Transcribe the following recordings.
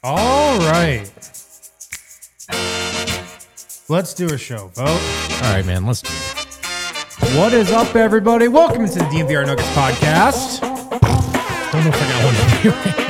All right. Let's do a show, Vote. All right, man, let's do it. What is up, everybody? Welcome to the DNVR Nuggets podcast. Don't know if I got one to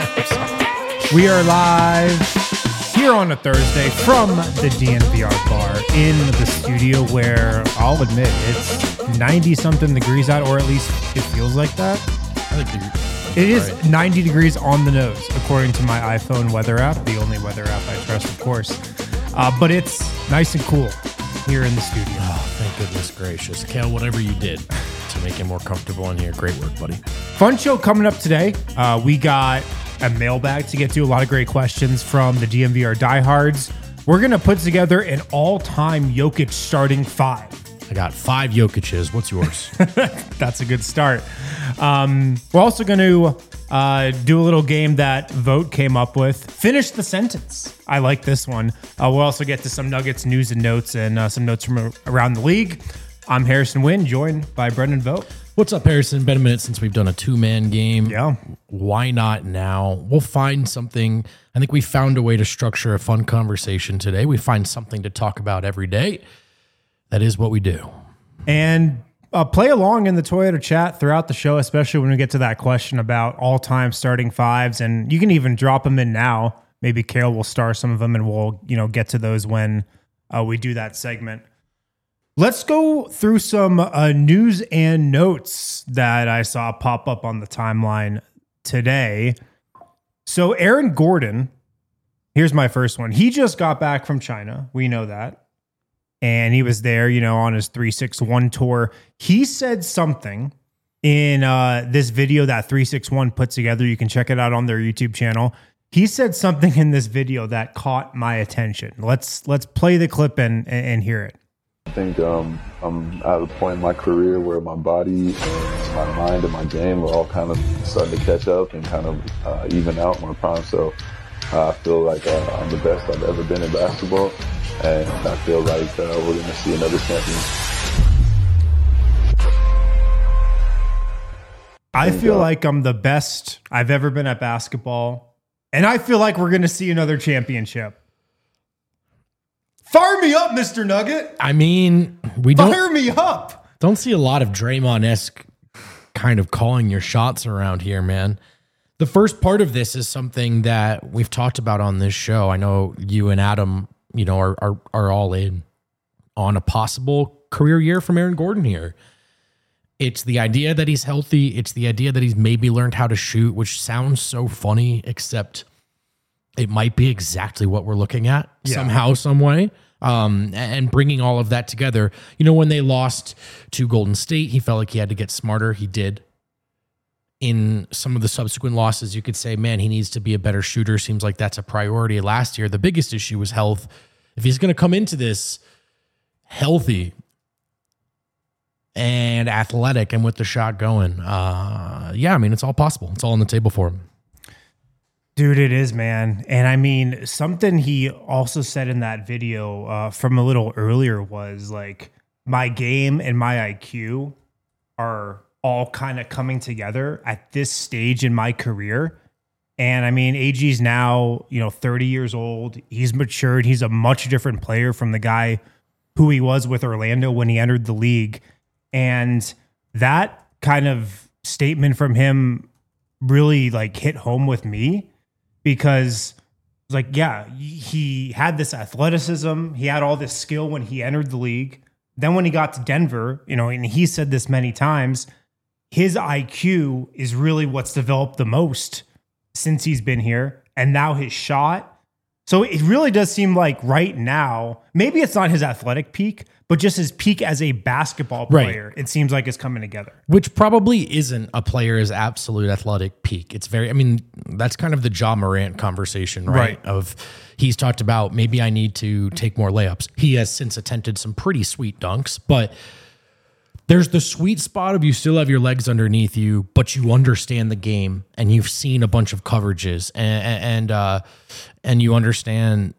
do. We are live here on a Thursday from the DNVR bar in the studio where I'll admit it's 90-something degrees out, or at least it feels like that. I think It is 90 degrees on the nose, according to my iPhone weather app, the only weather app I trust, of course. But it's nice and cool here in the studio. Oh, thank goodness gracious. Kale, whatever you did to make it more comfortable in here, great work, buddy. Fun show coming up today. We got a mailbag to get to, a lot of great questions from the DNVR diehards. We're going to put together an all-time Jokic starting five. I got 5 Jokic's. What's yours? That's a good start. We're also going to do a little game that Vote came up with. Finish the sentence. I like this one. We'll also get to some Nuggets news and notes and some notes from around the league. I'm Harrison Wynn, joined by Brendan Vote. What's up, Harrison? Been a minute since we've done a 2-man game. Yeah. Why not now? We'll find something. I think we found a way to structure a fun conversation today. We find something to talk about every day. That is what we do. And play along in the Toyota chat throughout the show, especially when we get to that question about all-time starting fives. And you can even drop them in now. Maybe Carol will star some of them, and we'll get to those when we do that segment. Let's go through some news and notes that I saw pop up on the timeline today. So Aaron Gordon, here's my first one. He just got back from China. We know that. And he was there, on his 361 tour. He said something in this video that 361 put together. You can check it out on their YouTube channel. He said something in this video that caught my attention. Let's play the clip and hear it. I think I'm at a point in my career where my body and my mind and my game are all kind of starting to catch up and kind of even out my prime. So I feel like I'm the best I've ever been in basketball. And I feel like we're going to see another champion. I feel like I'm the best I've ever been at basketball. And I feel like we're going to see another championship. Fire me up, Mr. Nugget. I mean, Fire me up. Don't see a lot of Draymond-esque kind of calling your shots around here, man. The first part of this is something that we've talked about on this show. I know you and Adam are all in on a possible career year from Aaron Gordon here. It's the idea that he's healthy. It's the idea that he's maybe learned how to shoot, which sounds so funny, except it might be exactly what we're looking at somehow, some way. And bringing all of that together. When they lost to Golden State, he felt like he had to get smarter. He did. In some of the subsequent losses, you could say, man, he needs to be a better shooter. Seems like that's a priority. Last year, the biggest issue was health. If he's going to come into this healthy and athletic and with the shot going, it's all possible. It's all on the table for him. Dude, it is, man. And I mean, something he also said in that video from a little earlier was like, my game and my IQ are all kind of coming together at this stage in my career. And I mean, AG's now, 30 years old. He's matured. He's a much different player from the guy who he was with Orlando when he entered the league. And that kind of statement from him really hit home with me, because he had this athleticism. He had all this skill when he entered the league. Then when he got to Denver, and he said this many times, his IQ is really what's developed the most since he's been here. And now his shot. So it really does seem like right now, maybe it's not his athletic peak, but just his peak as a basketball player, right. It seems like it's coming together. Which probably isn't a player's absolute athletic peak. It's that's kind of the Ja Morant conversation, right? Of he's talked about, maybe I need to take more layups. He has since attempted some pretty sweet dunks, but there's the sweet spot of you still have your legs underneath you, but you understand the game and you've seen a bunch of coverages and you understand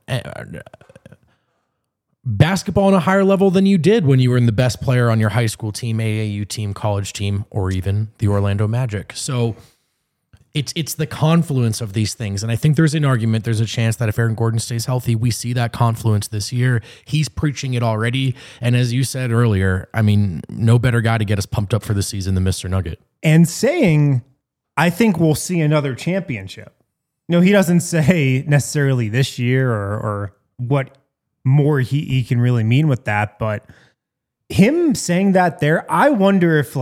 basketball on a higher level than you did when you were in the best player on your high school team, AAU team, college team, or even the Orlando Magic. So It's the confluence of these things. And I think there's a chance that if Aaron Gordon stays healthy, we see that confluence this year. He's preaching it already. And as you said earlier, I mean, no better guy to get us pumped up for the season than Mr. Nugget. And saying, I think we'll see another championship. He doesn't say necessarily this year or what more he can really mean with that. But him saying that there, I wonder if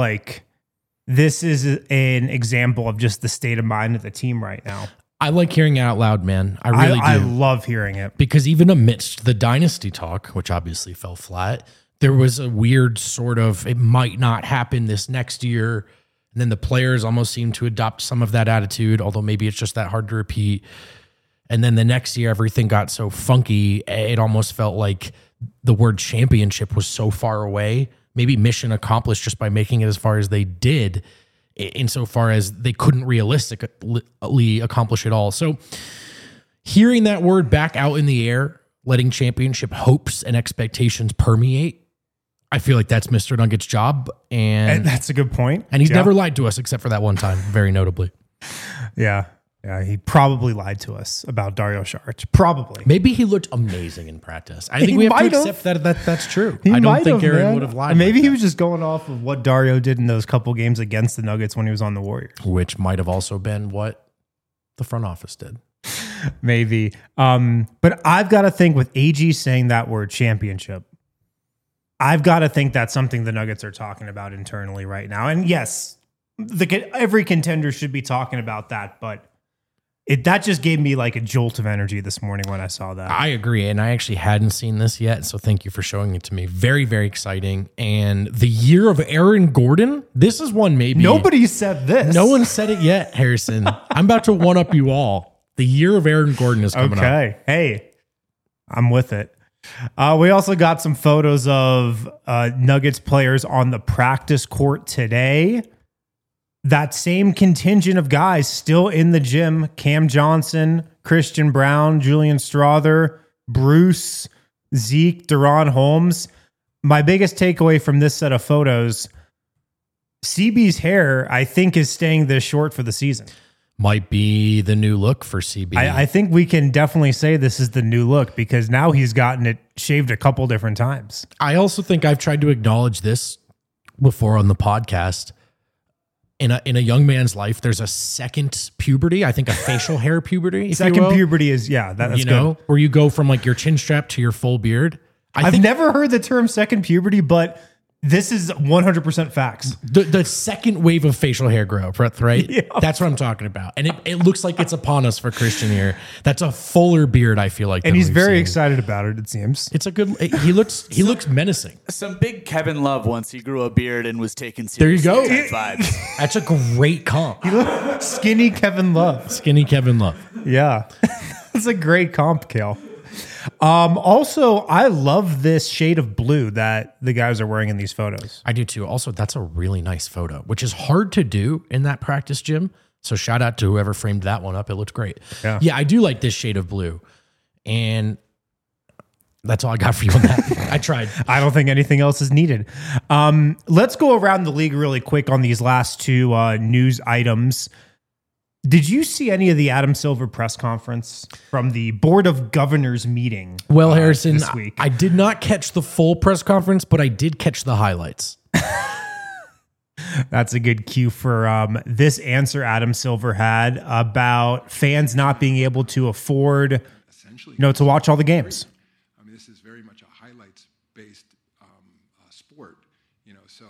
this is an example of just the state of mind of the team right now. I like hearing it out loud, man. I really do. I love hearing it. Because even amidst the dynasty talk, which obviously fell flat, there was a weird sort of, it might not happen this next year. And then the players almost seemed to adopt some of that attitude, although maybe it's just that hard to repeat. And then the next year, everything got so funky, it almost felt like the word championship was so far away. Maybe mission accomplished just by making it as far as they did, insofar as they couldn't realistically accomplish it all. So hearing that word back out in the air, letting championship hopes and expectations permeate, I feel like that's Mr. Nugget's job. And that's a good point. And he's never lied to us except for that one time, very notably. Yeah. Yeah, he probably lied to us about Dario Saric. Probably. Maybe he looked amazing in practice. I think we have to accept that that's true. I don't think Aaron would have lied. Maybe he was just going off of what Dario did in those couple games against the Nuggets when he was on the Warriors. Which might have also been what the front office did. Maybe. But I've got to think with AG saying that word championship, I've got to think that's something the Nuggets are talking about internally right now. And yes, every contender should be talking about that, but that just gave me a jolt of energy this morning when I saw that. I agree. And I actually hadn't seen this yet. So thank you for showing it to me. Very, very exciting. And the year of Aaron Gordon, this is one maybe. Nobody said this. No one said it yet, Harrison. I'm about to one up you all. The year of Aaron Gordon is coming up. Okay. Hey, I'm with it. We also got some photos of Nuggets players on the practice court today. That same contingent of guys still in the gym: Cam Johnson, Christian Brown, Julian Strother, Bruce, Zeke, Deron Holmes. My biggest takeaway from this set of photos, CB's hair, I think, is staying this short for the season. Might be the new look for CB. I think we can definitely say this is the new look because now he's gotten it shaved a couple different times. I also think I've tried to acknowledge this before on the podcast. In a young man's life, there's a second puberty. I think a facial hair puberty. Second puberty is, that's good. Where you go from your chin strap to your full beard. I've never heard the term second puberty, but this is 100% facts. The second wave of facial hair growth, right? Yeah. That's what I'm talking about. And it looks like it's upon us for Christian here. That's a fuller beard, I feel like. And he's very excited about it seems. It's a good, he looks menacing. Some big Kevin Love once he grew a beard and was taken seriously. There you go. Vibes. That's a great comp. Skinny Kevin Love. Skinny Kevin Love. Yeah. That's a great comp, Kale. Also, I love this shade of blue that the guys are wearing in these photos. I do too. Also, that's a really nice photo, which is hard to do in that practice gym. So shout out to whoever framed that one up. It looks great. Yeah, I do like this shade of blue. And that's all I got for you on that. I tried. I don't think anything else is needed. Let's go around the league really quick on these last two news items. Did you see any of the Adam Silver press conference from the Board of Governors meeting? Well, Harrison, this week? I did not catch the full press conference, but I did catch the highlights. That's a good cue for this answer Adam Silver had about fans not being able to afford, to watch all the games. I mean, this is very much a highlights-based sport. So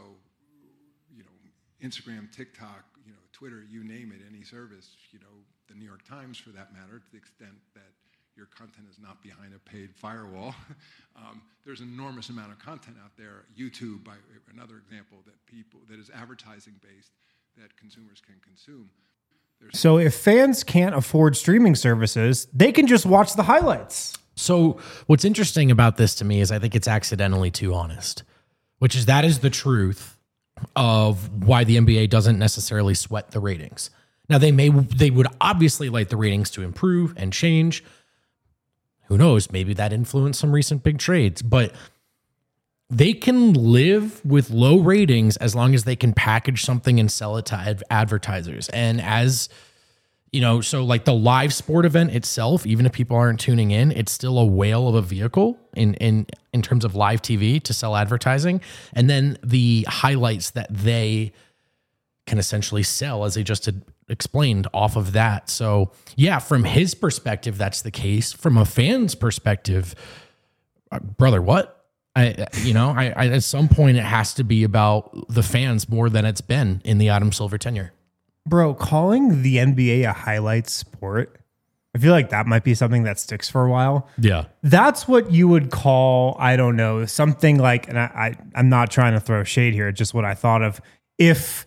Instagram, TikTok, Twitter, you name it, any service, the New York Times for that matter, to the extent that your content is not behind a paid firewall. There's an enormous amount of content out there. YouTube, by another example, that is advertising based that consumers can consume. So if fans can't afford streaming services, they can just watch the highlights. So what's interesting about this to me is I think it's accidentally too honest, which is that is the truth of why the NBA doesn't necessarily sweat the ratings. Now they would obviously like the ratings to improve and change. Who knows? Maybe that influenced some recent big trades, but they can live with low ratings as long as they can package something and sell it to advertisers. And as So like the live sport event itself, even if people aren't tuning in, it's still a whale of a vehicle in terms of live TV to sell advertising. And then the highlights that they can essentially sell, as they just had explained, off of that. So yeah, from his perspective, that's the case. From a fan's perspective, brother, what? I at some point it has to be about the fans more than it's been in the Adam Silver tenure. Bro, calling the NBA a highlight sport, I feel like that might be something that sticks for a while. Yeah. That's what you would call, I don't know, something like, and I'm not trying to throw shade here, just what I thought of, if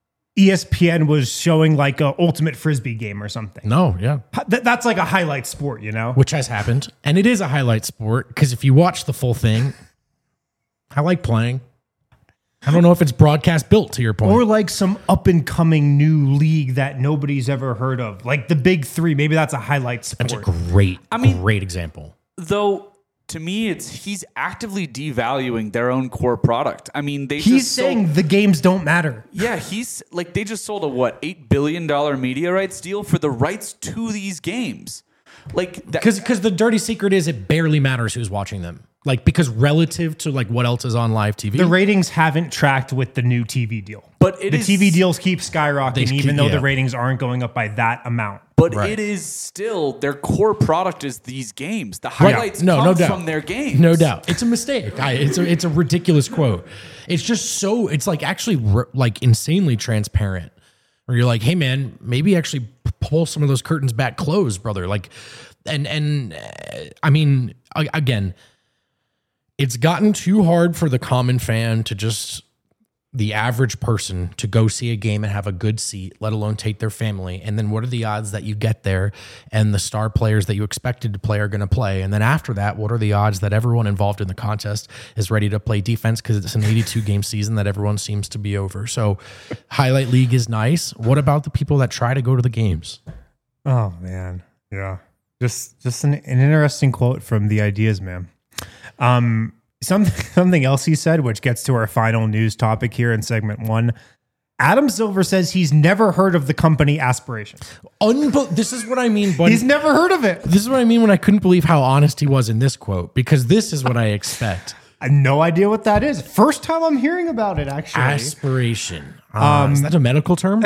ESPN was showing like a ultimate Frisbee game or something. No, yeah. That's like a highlight sport, Which has happened. And it is a highlight sport because if you watch the full thing, I like playing. I don't know if it's broadcast built, to your point. Or like some up and coming new league that nobody's ever heard of. Like the Big Three. Maybe that's a highlight sport. That's a great example. Though, to me, he's actively devaluing their own core product. I mean, he's saying the games don't matter. Yeah, he's like, they just sold a $8 billion media rights deal for the rights to these games. Like, because the dirty secret is it barely matters who's watching them. Like, because relative to like what else is on live TV, the ratings haven't tracked with the new TV deal. But the TV deals keep skyrocketing, even though the ratings aren't going up by that amount. But it is still their core product is these games. The highlights come from their games. No doubt, it's a mistake. It's a ridiculous quote. It's just so it's like actually like insanely transparent. Where you're like, hey man, maybe actually pull some of those curtains back closed, brother. Like, and I mean, again. It's gotten too hard for the common fan to just, the average person, to go see a game and have a good seat, let alone take their family. And then what are the odds that you get there and the star players that you expected to play are going to play? And then after that, what are the odds that everyone involved in the contest is ready to play defense because it's an 82-game season that everyone seems to be over? So highlight league is nice. What about the people that try to go to the games? Oh, man. Yeah. Just an interesting quote from The Ideas Man. Something else he said, which gets to our final news topic here in segment 1. Adam Silver says he's never heard of the company Aspiration. This is what I mean, buddy. He's never heard of it. This is what I mean when I couldn't believe how honest he was in this quote, because this is what I expect. I have no idea what that is. First time I'm hearing about it, actually. Aspiration. Is that a medical term?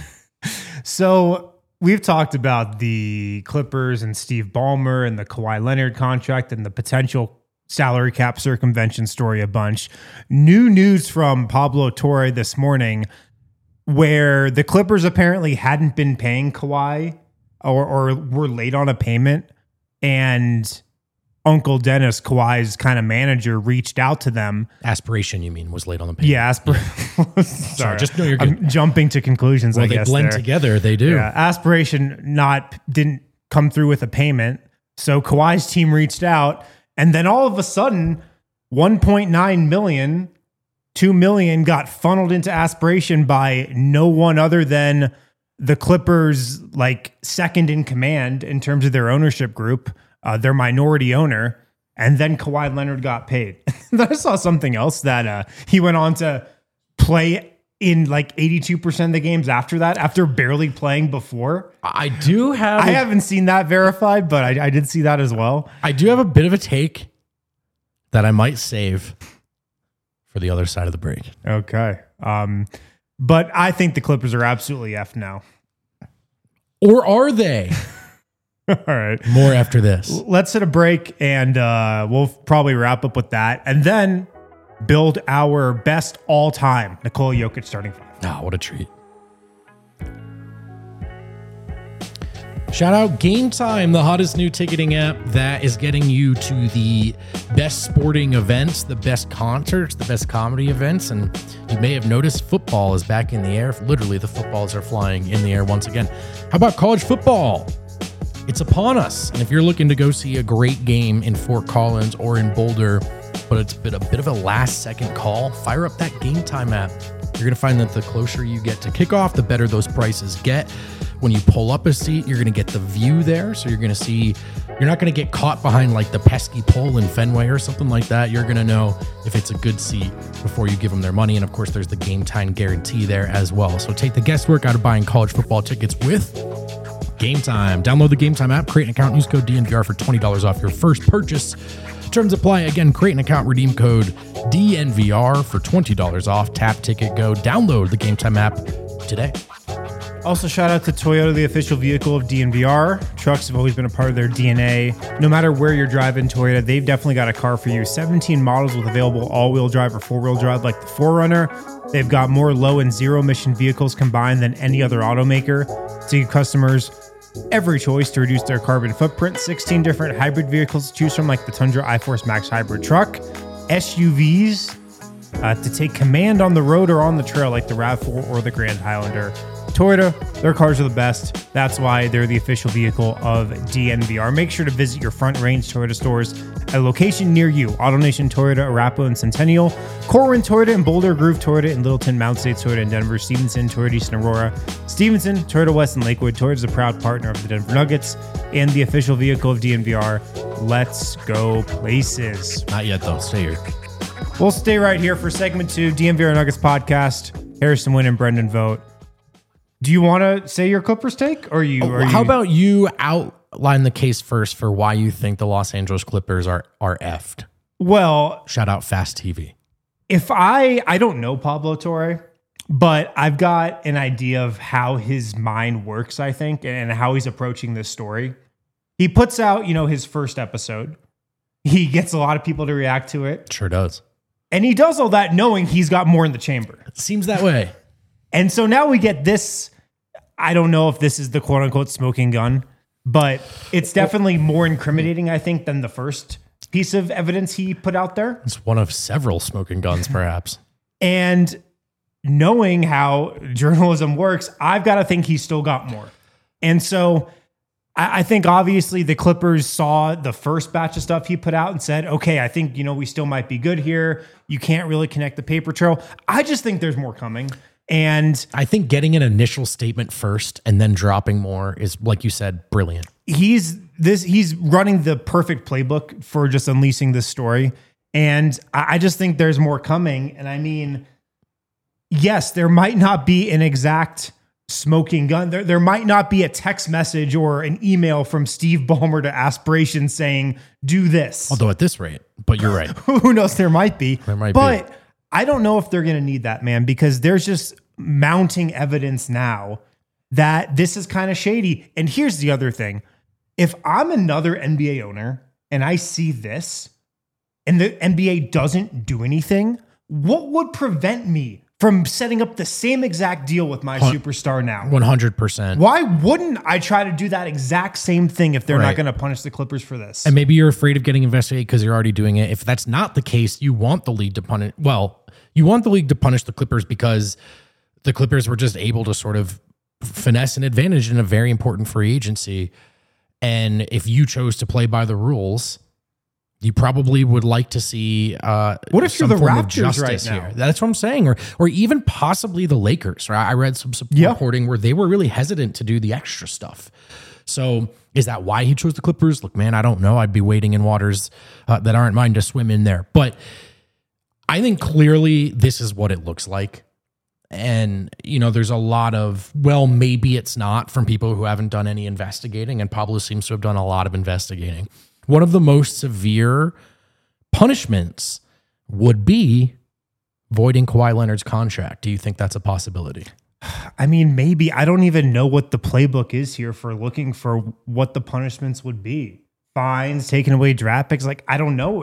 So we've talked about the Clippers and Steve Ballmer and the Kawhi Leonard contract and the potential salary cap circumvention story a bunch. New news from Pablo Torre this morning where the Clippers apparently hadn't been paying Kawhi or were late on a payment, and Uncle Dennis, Kawhi's kind of manager, reached out to them. Aspiration, you mean, was late on the payment. Yeah, Sorry, just know you're good. I'm jumping to conclusions, well, I guess. They blend together, they do. Yeah, Aspiration didn't come through with a payment, so Kawhi's team reached out. And then all of a sudden, 1.9 million, 2 million got funneled into Aspiration by no one other than the Clippers, like second in command in terms of their ownership group, their minority owner. And then Kawhi Leonard got paid. Then I saw something else that he went on to play in like 82% of the games after that, after barely playing before. I haven't seen that verified, but I did see that as well. I do have a bit of a take that I might save for the other side of the break. Okay. But I think the Clippers are absolutely F now. Or are they? All right. More after this. Let's hit a break and we'll probably wrap up with that. And then build our best all-time Nikola Jokic starting five. Oh, what a treat. Shout out Game Time, the hottest new ticketing app that is getting you to the best sporting events, the best concerts, the best comedy events. And you may have noticed football is back in the air. Literally, the footballs are flying in the air once again. How about college football? It's upon us. And if you're looking to go see a great game in Fort Collins or in Boulder, but it's been a bit of a last-second call, fire up that Game Time app. You're going to find that the closer you get to kickoff, the better those prices get. When you pull up a seat, you're going to get the view there. So you're going to see, you're not going to get caught behind like the pesky pole in Fenway or something like that. You're going to know if it's a good seat before you give them their money. And of course, there's the Game Time guarantee there as well. So take the guesswork out of buying college football tickets with Game Time. Download the Game Time app, create an account, use code DNVR for $20 off your first purchase. Terms apply. Again, create an account, redeem code DNVR for $20 off. Tap, ticket, go. Download the Game Time app today. Also, shout out to Toyota, the official vehicle of DNVR. Trucks have always been a part of their DNA. No matter where you're driving, Toyota, they've definitely got a car for you. 17 models with available all-wheel drive or four-wheel drive like the 4Runner. They've got more low and zero-emission vehicles combined than any other automaker to give customers every choice to reduce their carbon footprint. 16 different hybrid vehicles to choose from, like the Tundra iForce Max Hybrid Truck. SUVs to take command on the road or on the trail, like the RAV4 or the Grand Highlander. Toyota, their cars are the best. That's why they're the official vehicle of DNVR. Make sure to visit your Front Range Toyota stores at a location near you. AutoNation Toyota, Arapahoe and Centennial. Corwin Toyota and Boulder Grove Toyota in Littleton, Mount States Toyota in Denver. Stevenson Toyota East and Aurora. Stevenson, Toyota West and Lakewood. Toyota is a proud partner of the Denver Nuggets and the official vehicle of DNVR. Let's go places. Not yet, though. Stay here. We'll stay right here for segment 2, DNVR Nuggets podcast. Harrison Wynn and Brendan Vogt. Do you want to say your Clippers take, or How about you outline the case first for why you think the Los Angeles Clippers are effed? Well, shout out Fast TV. If I don't know Pablo Torre, but I've got an idea of how his mind works, I think, and how he's approaching this story. He puts out, his first episode. He gets a lot of people to react to it. Sure does. And he does all that knowing he's got more in the chamber. It seems that way. And so now we get this. I don't know if this is the quote unquote smoking gun, but it's definitely more incriminating, I think, than the first piece of evidence he put out there. It's one of several smoking guns, perhaps. And knowing how journalism works, I've got to think he's still got more. And so I think obviously the Clippers saw the first batch of stuff he put out and said, okay, I think, we still might be good here. You can't really connect the paper trail. I just think there's more coming. And I think getting an initial statement first and then dropping more is, like you said, brilliant. He's running the perfect playbook for just unleashing this story. And I just think there's more coming. And I mean, yes, there might not be an exact smoking gun. There might not be a text message or an email from Steve Ballmer to Aspiration saying, do this. Although at this rate, but you're right. Who knows? There might be. But I don't know if they're going to need that, man, because there's just mounting evidence now that this is kind of shady. And here's the other thing. If I'm another NBA owner and I see this and the NBA doesn't do anything, what would prevent me from setting up the same exact deal with my superstar now? 100%. Why wouldn't I try to do that exact same thing if they're not going to punish the Clippers for this? And maybe you're afraid of getting investigated because you're already doing it. If that's not the case, you want the league to punish. Well, you want the league to punish the Clippers because the Clippers were just able to sort of finesse an advantage in a very important free agency. And if you chose to play by the rules, you probably would like to see what if you're the Raptors right now? Here. That's what I'm saying. Or even possibly the Lakers. Right? I read some reporting where they were really hesitant to do the extra stuff. So is that why he chose the Clippers? Look, man, I don't know. I'd be wading in waters that aren't mine to swim in there. But I think clearly this is what it looks like. And, there's a lot of, well, maybe it's not from people who haven't done any investigating. And Pablo seems to have done a lot of investigating. One of the most severe punishments would be voiding Kawhi Leonard's contract. Do you think that's a possibility? I mean, maybe. I don't even know what the playbook is here for looking for what the punishments would be. Fines, taking away draft picks. Like, I don't know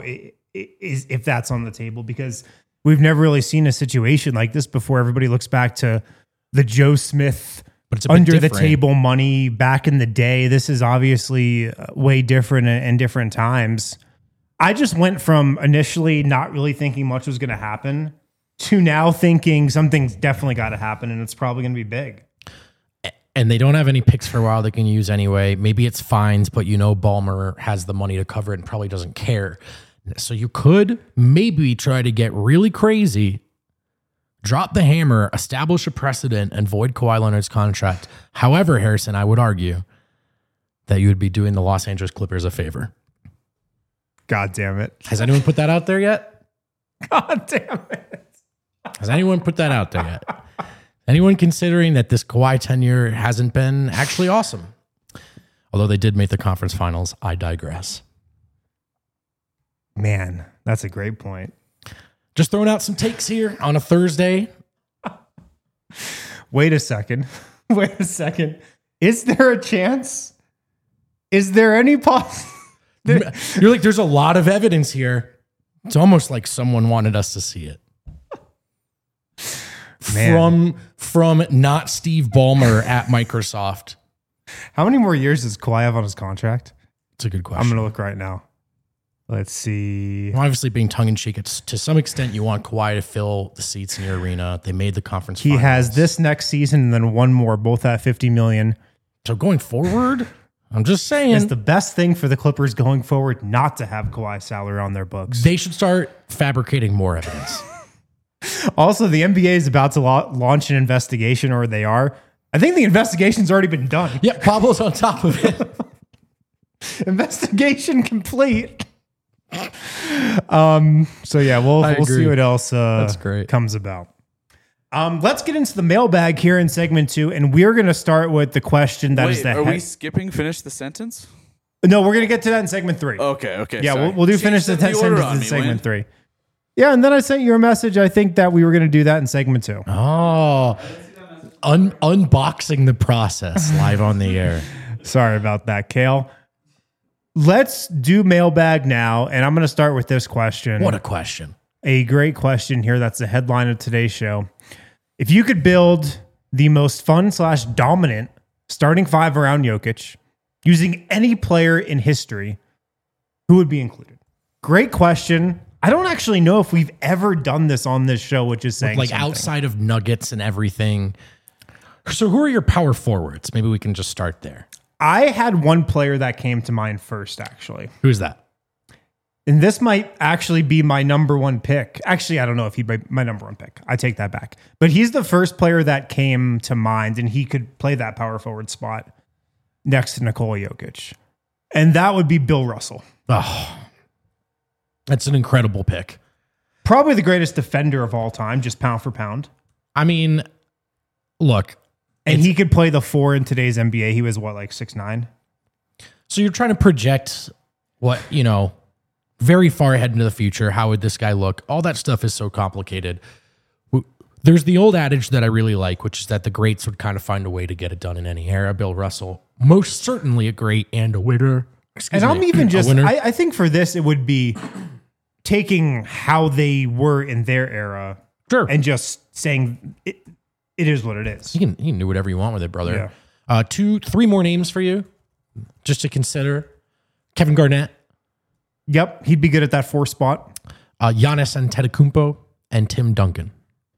if that's on the table because we've never really seen a situation like this before. Everybody looks back to the Joe Smith under the table money back in the day. This is obviously way different in different times. I just went from initially not really thinking much was going to happen to now thinking something's definitely got to happen and it's probably going to be big. And they don't have any picks for a while they can use anyway. Maybe it's fines, but Ballmer has the money to cover it and probably doesn't care. So you could maybe try to get really crazy, drop the hammer, establish a precedent, and void Kawhi Leonard's contract. However, Harrison, I would argue that you would be doing the Los Angeles Clippers a favor. God damn it. Has anyone put that out there yet? God damn it. Has anyone put that out there yet? Anyone considering that this Kawhi tenure hasn't been actually awesome? Although they did make the conference finals, I digress. Man, that's a great point. Just throwing out some takes here on a Thursday. Wait a second. Wait a second. Is there a chance? Is there any You're like, there's a lot of evidence here. It's almost like someone wanted us to see it. Man. From not Steve Ballmer at Microsoft. How many more years does Kawhi have on his contract? It's a good question. I'm going to look right now. Let's see. Well, obviously, being tongue-in-cheek, it's to some extent you want Kawhi to fill the seats in your arena. They made the conference He finals. has this next season and then one more, both at $50 million. So going forward, I'm just saying. It's the best thing for the Clippers going forward not to have Kawhi's salary on their books. They should start fabricating more evidence. Also, the NBA is about to launch an investigation, or they are. I think the investigation's already been done. Yeah, Pablo's on top of it. Investigation complete. So yeah, we'll agree. see what else That's great. comes about. Let's get into the mailbag here in segment 2, and we're going to start with the question that is Wait, the are we skipping finish the sentence? No, we're going to get to that in segment 3. Okay. Yeah, sorry. we'll do Change finish the order sentence on in me, segment Wayne. 3. Yeah, and then I sent you a message. I think that we were going to do that in segment 2. Oh, unboxing the process live on the air. Sorry about that, Kale. Let's do mailbag now, and I'm going to start with this question. What a question. A great question here. That's the headline of today's show. If you could build the most fun/dominant starting five around Jokic using any player in history, who would be included? Great question. I don't actually know if we've ever done this on this show, which is saying Like something. outside of Nuggets and everything. So who are your power forwards? Maybe we can just start there. I had one player that came to mind first, actually. Who's that? And this might actually be my number one pick. Actually, I don't know if he'd be my number one pick. I take that back. But he's the first player that came to mind, and he could play that power forward spot next to Nikola Jokic. And that would be Bill Russell. Oh, that's an incredible pick. Probably the greatest defender of all time, just pound for pound. I mean, look. And he could play the 4 in today's NBA. He was what, like 6'9"? So you're trying to project what, very far ahead into the future. How would this guy look? All that stuff is so complicated. There's the old adage that I really like, which is that the greats would kind of find a way to get it done in any era. Bill Russell, most certainly a great and a winner. And I'm even just, I think for this, it would be taking how they were in their era and just saying it is what it is. You can do whatever you want with it, brother. Yeah. 3 more names for you just to consider. Kevin Garnett. Yep, he'd be good at that 4 spot. Giannis Antetokounmpo and Tim Duncan.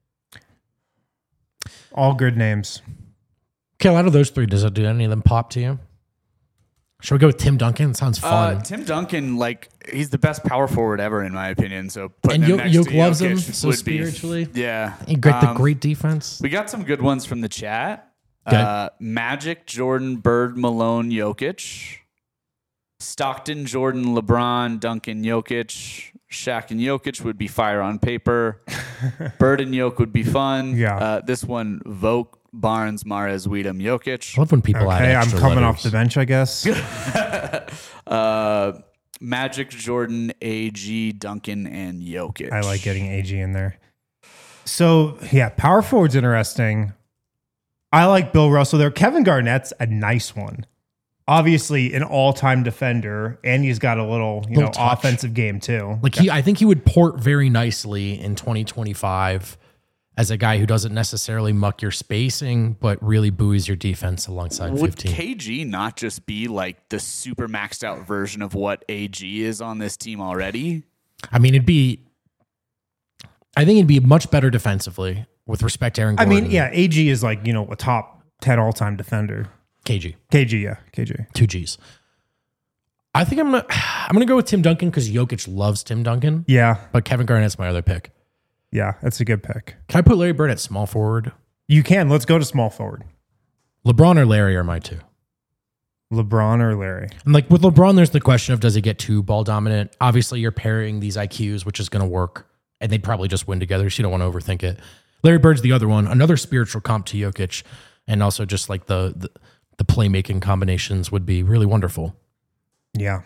All good names. Okay, out of those 3, does any of them pop to you? Should we go with Tim Duncan? It sounds fun. Tim Duncan, he's the best power forward ever, in my opinion. So and Jokic loves him Jokic so would spiritually. Be, yeah. Great defense. We got some good ones from the chat. Okay. Magic, Jordan, Bird, Malone, Jokic. Stockton, Jordan, LeBron, Duncan, Jokic. Shaq and Jokic would be fire on paper. Bird and Jokic would be fun. Yeah. This one, Vogt, Barnes, Mahrez, Weedham, Jokic. I love when people add I'm extra coming letters. off the bench, I guess. Magic, Jordan, AG, Duncan, and Jokic. I like getting AG in there. So, yeah, power forward's interesting. I like Bill Russell there. Kevin Garnett's a nice one. Obviously, an all-time defender, and he's got a little touch. offensive game too. I think he would port very nicely in 2025 as a guy who doesn't necessarily muck your spacing, but really buoys your defense alongside Would 15. KG not just be like the super maxed out version of what AG is on this team already? I mean, I think it'd be much better defensively with respect to Aaron Gordon. I mean, yeah, AG is like, a top 10 all-time defender. KG. KG. 2 Gs. I think I'm gonna go with Tim Duncan because Jokic loves Tim Duncan. Yeah. But Kevin Garnett's my other pick. Yeah, that's a good pick. Can I put Larry Bird at small forward? You can. Let's go to small forward. LeBron or Larry are my 2. LeBron or Larry? And with LeBron, there's the question of does he get too ball dominant? Obviously, you're pairing these IQs, which is going to work, and they'd probably just win together, so you don't want to overthink it. Larry Bird's the other one, another spiritual comp to Jokic, and also just the the playmaking combinations would be really wonderful. Yeah.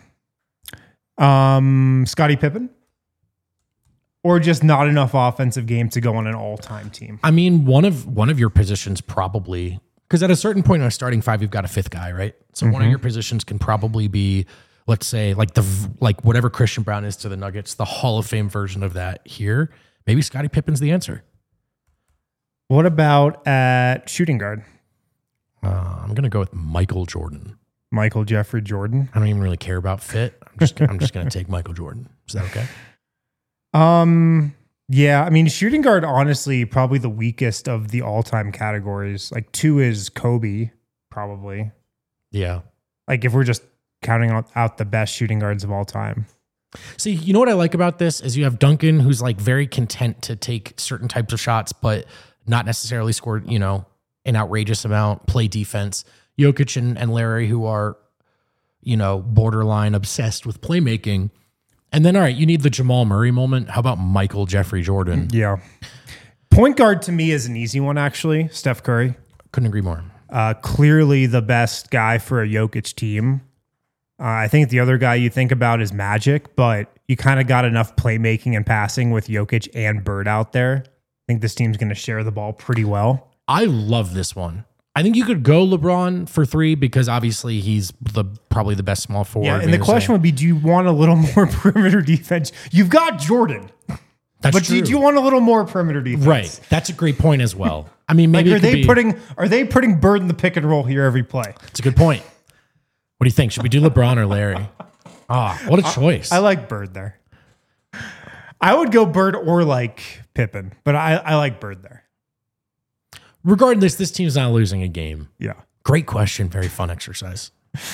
Scottie Pippen? Or just not enough offensive game to go on an all-time team? I mean, one of your positions probably, because at a certain point in a starting five, you've got a fifth guy, right? So one of your positions can probably be, let's say, like whatever Christian Brown is to the Nuggets, the Hall of Fame version of that here. Maybe Scottie Pippen's the answer. What about at shooting guard? I'm going to go with Michael Jordan. Michael Jeffrey Jordan? I don't even really care about fit. I'm just going to take Michael Jordan. Is that okay? Yeah, I mean, shooting guard, honestly, probably the weakest of the all-time categories. Like 2 is Kobe, probably. Yeah. Like if we're just counting out the best shooting guards of all time. See, you know what I like about this is you have Duncan, who's like very content to take certain types of shots, but not necessarily score, an outrageous amount, play defense. Jokic and Larry, who are, borderline obsessed with playmaking. And then, all right, you need the Jamal Murray moment. How about Michael Jeffrey Jordan? Yeah. Point guard to me is an easy one, actually. Steph Curry. Couldn't agree more. Clearly the best guy for a Jokic team. I think the other guy you think about is Magic, but you kind of got enough playmaking and passing with Jokic and Bird out there. I think this team's going to share the ball pretty well. I love this one. I think you could go LeBron for 3 because obviously he's probably the best small forward. Yeah, and the question would be, do you want a little more perimeter defense? You've got Jordan. That's but true. do you want a little more perimeter defense? Right. That's a great point as well. I mean, maybe are they putting Bird in the pick and roll here every play? It's a good point. What do you think? Should we do LeBron or Larry? What a choice. I like Bird there. I would go Bird or like Pippen, but I like Bird there. Regardless, this team's not losing a game. Yeah. Great question. Very fun exercise.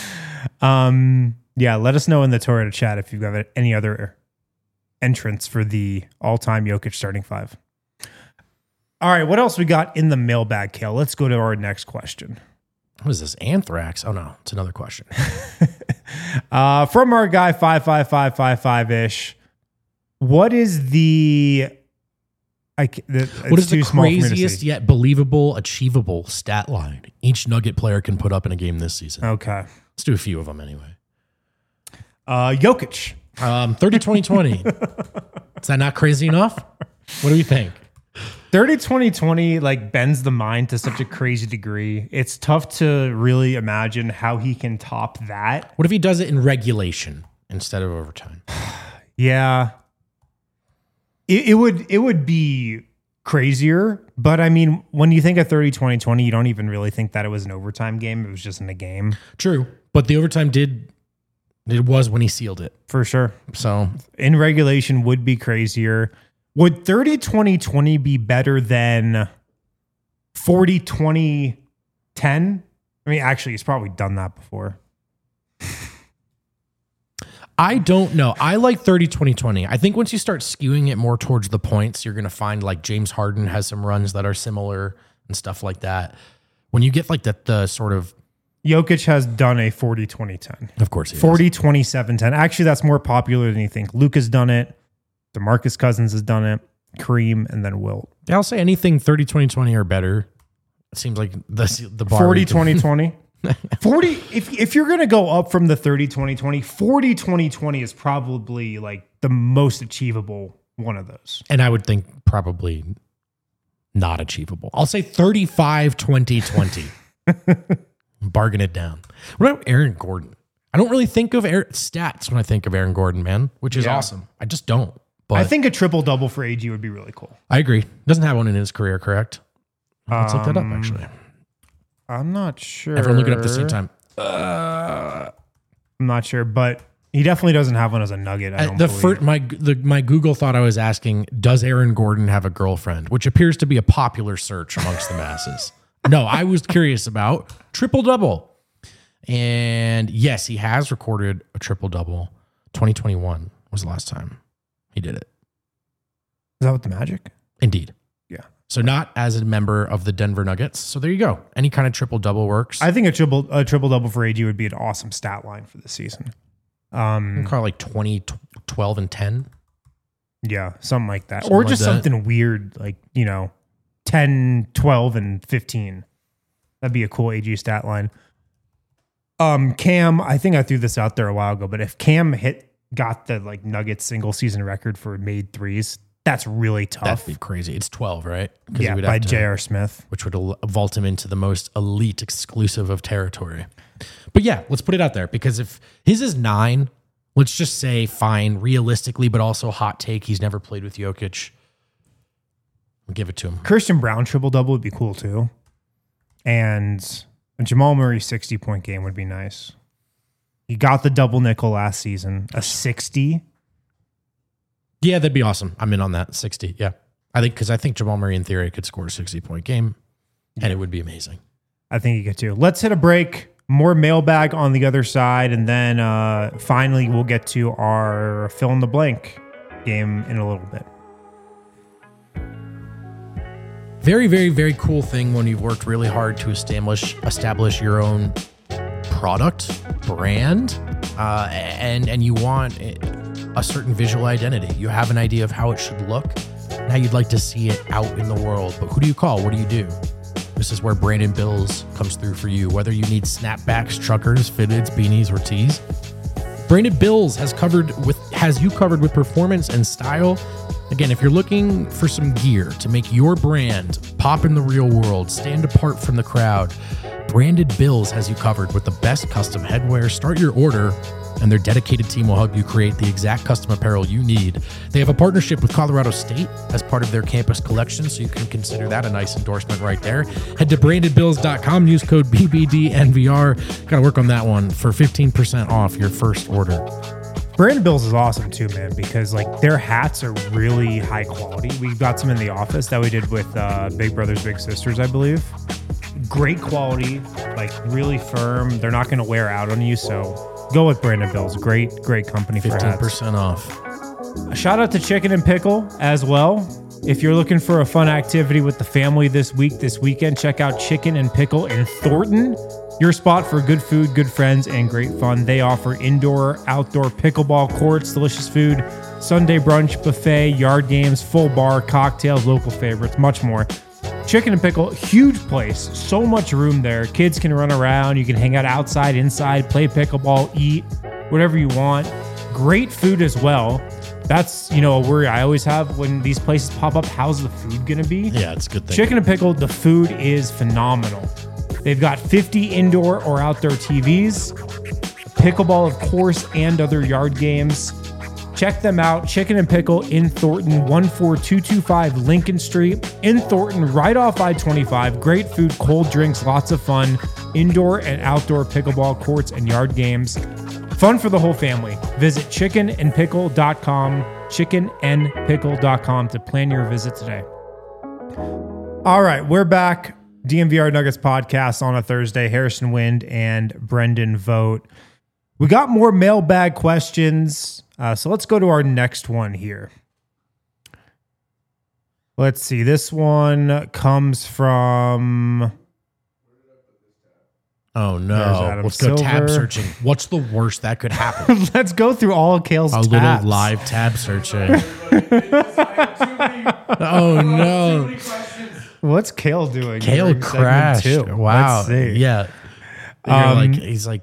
Yeah, let us know in the Toyota chat if you've got any other entrants for the all-time Jokic starting 5. All right, what else we got in the mailbag, Kale? Let's go to our next question. What is this? Anthrax? Oh, no. It's another question. From our guy, 55555-ish. What is the what is the craziest yet believable, achievable stat line each Nugget player can put up in a game this season? Okay. Let's do a few of them anyway. Jokic. 30-20-20. Is that not crazy enough? What do you think? 30-20-20 like bends the mind to such a crazy degree. It's tough to really imagine how he can top that. What if he does it in regulation instead of overtime? Yeah. It would be crazier, but I mean, when you think of 30-20-20, you don't even really think that it was an overtime game. It was just in a game. True. But the overtime was when he sealed it. For sure. So in regulation would be crazier. Would 30-20-20 be better than 40-20-10? I mean, actually, he's probably done that before. I don't know. I like 30-20-20. I think once you start skewing it more towards the points, you're going to find like James Harden has some runs that are similar and stuff like that. When you get like the sort of... Jokic has done a 40-20-10. Of course he has. 40-27-10. Actually, that's more popular than you think. Luke has done it. DeMarcus Cousins has done it. Kareem, and then Wilt. Yeah, I'll say anything 30-20-20 or better. It seems like the bar... 40-20-20. 40 if you're going to go up from the 30-20-20, 40-20-20 is probably like the most achievable one of those. And I would think probably not achievable. I'll say 35-20-20. Bargain it down. What about Aaron Gordon? I don't really think of stats when I think of Aaron Gordon, man, which is awesome. I just don't. But I think a triple-double for AG would be really cool. I agree. Doesn't have one in his career, correct? Let's look that up, actually. I'm not sure. Everyone look it up at the same time. I'm not sure, but he definitely doesn't have one as a Nugget. I don't believe. My Google thought I was asking, does Aaron Gordon have a girlfriend? Which appears to be a popular search amongst the masses. No, I was curious about triple-double. And yes, he has recorded a triple-double. 2021 was the last time he did it. Is that with the Magic? Indeed. Yeah. So not as a member of the Denver Nuggets. So there you go. Any kind of triple-double works. I think a triple-double for AG would be an awesome stat line for the season. Call it like 20, 12, and 10. Yeah, something like that. Something or like just that. something weird, like, 10, 12, and 15. That'd be a cool AG stat line. Cam, I think I threw this out there a while ago, but if Cam got the like Nuggets single season record for made threes, that's really tough. That'd be crazy. It's 12, right? 'Cause Yeah, he would by have to- J.R. Smith. which would vault him into the most elite exclusive of territory. But yeah, let's put it out there, because if his is 9, let's just say fine, realistically, but also hot take, he's never played with Jokic. We'll give it to him. Christian Brown triple-double would be cool too. And a Jamal Murray 60-point game would be nice. He got the double nickel last season. A 60. Yeah, that'd be awesome. I'm in on that. 60. Yeah. I think Jamal Murray in theory could score a 60-point game, and it would be amazing. I think you get to. Let's hit a break. More mailbag on the other side, and then finally we'll get to our fill in the blank game in a little bit. Very, very, very cool thing when you've worked really hard to establish your own product, brand, and you want a certain visual identity. You have an idea of how it should look. Now you'd like to see it out in the world. But who do you call? What do you do? This is where Brandon Bills comes through for you. Whether you need snapbacks, truckers, fitteds, beanies, or tees, Brandon Bills has you covered with performance and style. Again, if you're looking for some gear to make your brand pop in the real world, stand apart from the crowd, Branded Bills has you covered with the best custom headwear. Start your order, and their dedicated team will help you create the exact custom apparel you need. They have a partnership with Colorado State as part of their campus collection, so you can consider that a nice endorsement right there. Head to brandedbills.com, use code BBDNVR. Got to work on that one for 15% off your first order. Brandon Bills is awesome too, man, because like their hats are really high quality. We've got some in the office that we did with Big Brothers Big Sisters, I believe. Great quality, like really firm. They're not going to wear out on you, so go with Brandon Bills. Great company for hats. 15% off. A shout out to Chicken and Pickle as well. If you're looking for a fun activity with the family this weekend, check out Chicken and Pickle in Thornton. Your spot for good food, good friends, and great fun. They offer indoor, outdoor pickleball courts, delicious food, Sunday brunch, buffet, yard games, full bar, cocktails, local favorites, much more. Chicken and Pickle, huge place, so much room there. Kids can run around. You can hang out outside, inside, play pickleball, eat, whatever you want. Great food as well. That's, a worry I always have when these places pop up. How's the food going to be? Yeah, it's a good thing. Chicken and Pickle, the food is phenomenal. They've got 50 indoor or outdoor TVs, pickleball, of course, and other yard games. Check them out. Chicken and Pickle in Thornton, 14225 Lincoln Street in Thornton, right off I-25. Great food, cold drinks, lots of fun, indoor and outdoor pickleball courts and yard games. Fun for the whole family. Visit chickenandpickle.com, chickenandpickle.com to plan your visit today. All right, we're back. DNVR Nuggets podcast on a Thursday. Harrison Wind and Brendan Vogt. We got more mailbag questions, so let's go to our next one here. Let's see. This one comes from... Oh, There's no. Adam Let's go tab Silver. searching. What's the worst that could happen? Let's go through all of Kale's A tabs. little live tab searching. Oh, no. What's Kale doing? Kale during segment crashed. two? Wow. Let's see. Yeah. He's like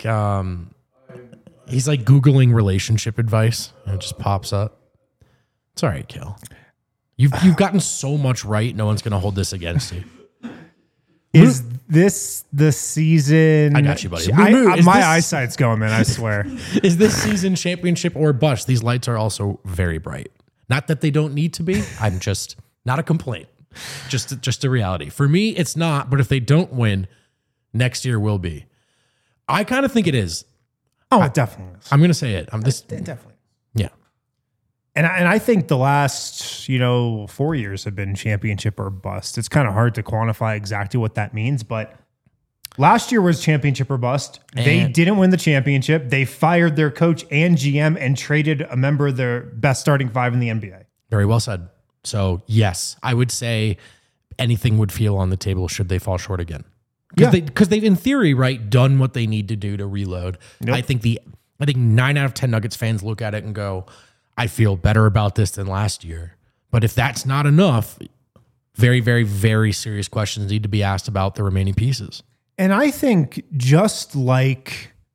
Googling relationship advice, and it just pops up. It's all right, Kale. You've gotten so much right. No one's going to hold this against you. Is this the season? I got you, buddy. My Is this- eyesight's going, man. I swear. Is this season championship or bust? These lights are also very bright. Not that they don't need to be. I'm just not a complaint. Just a reality. For me, it's not. But if they don't win, next year will be. I kind of think it is. Oh, it definitely is. I'm going to say it. Definitely. Yeah. And I think the last, 4 years have been championship or bust. It's kind of hard to quantify exactly what that means, but last year was championship or bust. They And- didn't win the championship. They fired their coach and GM and traded a member of their best starting five in the NBA. Very well said. So, yes, I would say anything would feel on the table should they fall short again. Yeah. Because they've, in theory, right, done what they need to do to reload. Yep. I think 9 out of 10 Nuggets fans look at it and go, I feel better about this than last year. But if that's not enough, very, very, very serious questions need to be asked about the remaining pieces. And I think just like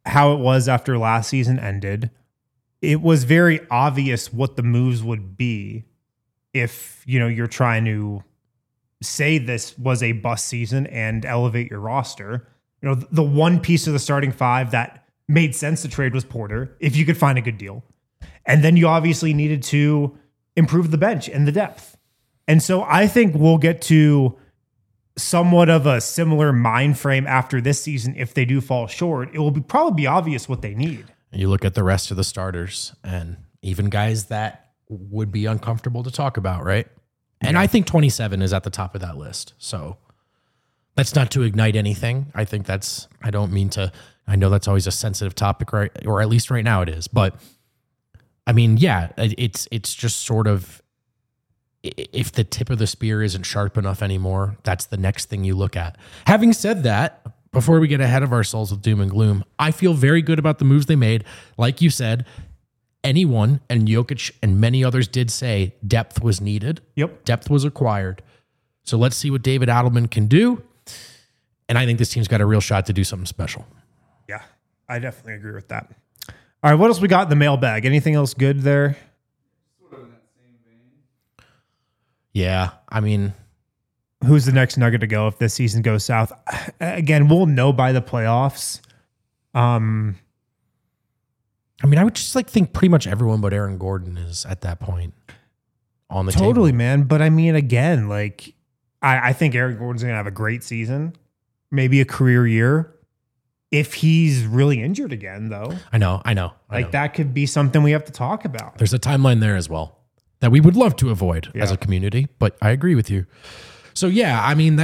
how it was after last season ended, it was very obvious what the moves would be if, you're trying to say this was a bust season and elevate your roster. The one piece of the starting five that made sense to trade was Porter, if you could find a good deal. And then you obviously needed to improve the bench and the depth. And so I think we'll get to somewhat of a similar mind frame after this season. If they do fall short, it will probably be obvious what they need. You look at the rest of the starters and even guys that would be uncomfortable to talk about, right? And I think 27 is at the top of that list. So that's not to ignite anything. I think I don't mean to, I know that's always a sensitive topic, right? Or at least right now it is. But I mean, yeah, it's just sort of, if the tip of the spear isn't sharp enough anymore, that's the next thing you look at. Having said that, before we get ahead of ourselves with doom and gloom, I feel very good about the moves they made. Like you said, anyone, and Jokic and many others did say, depth was needed. Yep. Depth was acquired. So let's see what David Adelman can do. And I think this team's got a real shot to do something special. Yeah, I definitely agree with that. All right, what else we got in the mailbag? Anything else good there? Yeah, I mean, who's the next Nugget to go if this season goes south? Again, we'll know by the playoffs. I mean, I would just think pretty much everyone but Aaron Gordon is at that point on the totally, table. Man. But I mean, again, I think Aaron Gordon's going to have a great season, maybe a career year. If he's really injured again, though. I know. That could be something we have to talk about. There's a timeline there as well that we would love to avoid as a community, but I agree with you. So yeah, I mean,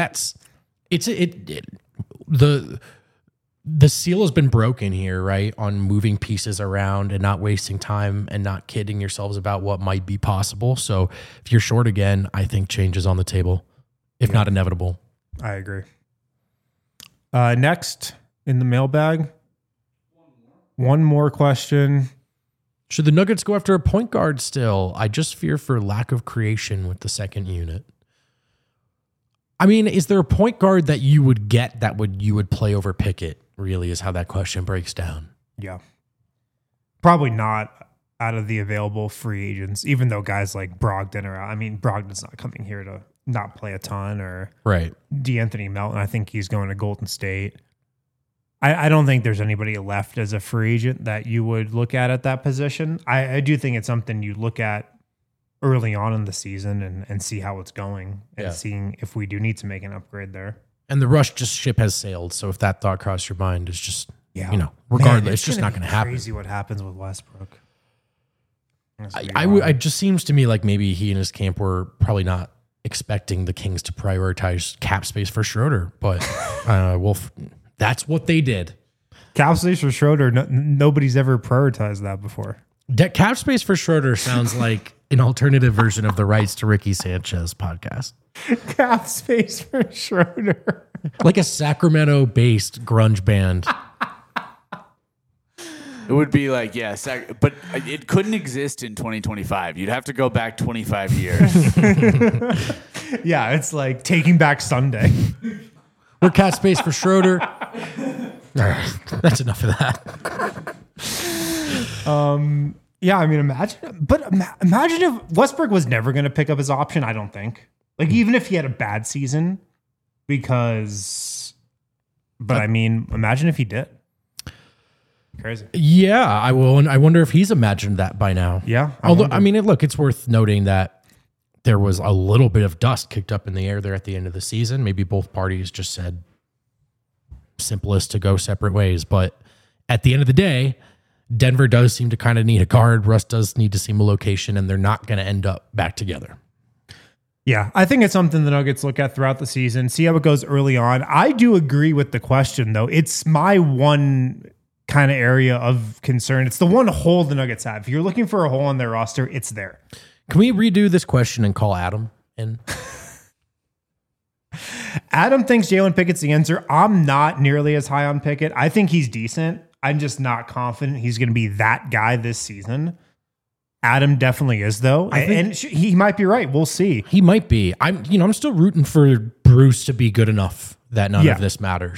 the seal has been broken here, right? On moving pieces around and not wasting time and not kidding yourselves about what might be possible. So if you're short again, I think change is on the table, if not inevitable. I agree. Next in the mailbag, one more question. Should the Nuggets go after a point guard still? I just fear for lack of creation with the second unit. I mean, is there a point guard that you would get that you would play over Pickett, really, is how that question breaks down. Yeah. Probably not out of the available free agents, even though guys like Brogdon are out. I mean, Brogdon's not coming here to not play a ton, or right. DeAnthony Melton, I think he's going to Golden State. I don't think there's anybody left as a free agent that you would look at that position. I do think it's something you look at early on in the season and see how it's going and seeing if we do need to make an upgrade there. And the Rush ship has sailed. So if that thought crossed your mind, it's just, regardless, it's just not going to happen. Crazy what happens with Westbrook. It just seems to me like maybe he and his camp were probably not expecting the Kings to prioritize cap space for Schroeder, but that's what they did. Cap space for Schroeder, nobody's ever prioritized that before. Cap space for Schroeder sounds like an alternative version of the Rights to Ricky Sanchez podcast. Cap space for Schroeder. Like a Sacramento-based grunge band. It would be like, but it couldn't exist in 2025. You'd have to go back 25 years. Yeah, it's like Taking Back Sunday. We're cap space for Schroeder. All right, that's enough of that. Yeah, I mean, imagine if Westbrook was never going to pick up his option. I don't think. Even if he had a bad season, I mean, imagine if he did. Crazy. Yeah, I will. I wonder if he's imagined that by now. Yeah. It's worth noting that there was a little bit of dust kicked up in the air there at the end of the season. Maybe both parties just said simplest to go separate ways. But at the end of the day, Denver does seem to kind of need a guard. Russ does need to seem a location, and they're not going to end up back together. Yeah, I think it's something the Nuggets look at throughout the season, see how it goes early on. I do agree with the question, though. It's my one kind of area of concern. It's the one hole the Nuggets have. If you're looking for a hole on their roster, it's there. Can we redo this question and call Adam in? Adam thinks Jalen Pickett's the answer. I'm not nearly as high on Pickett. I think he's decent. I'm just not confident he's going to be that guy this season. Adam definitely is, though. And he might be right. We'll see. He might be. I'm still rooting for Bruce to be good enough that none of this matters.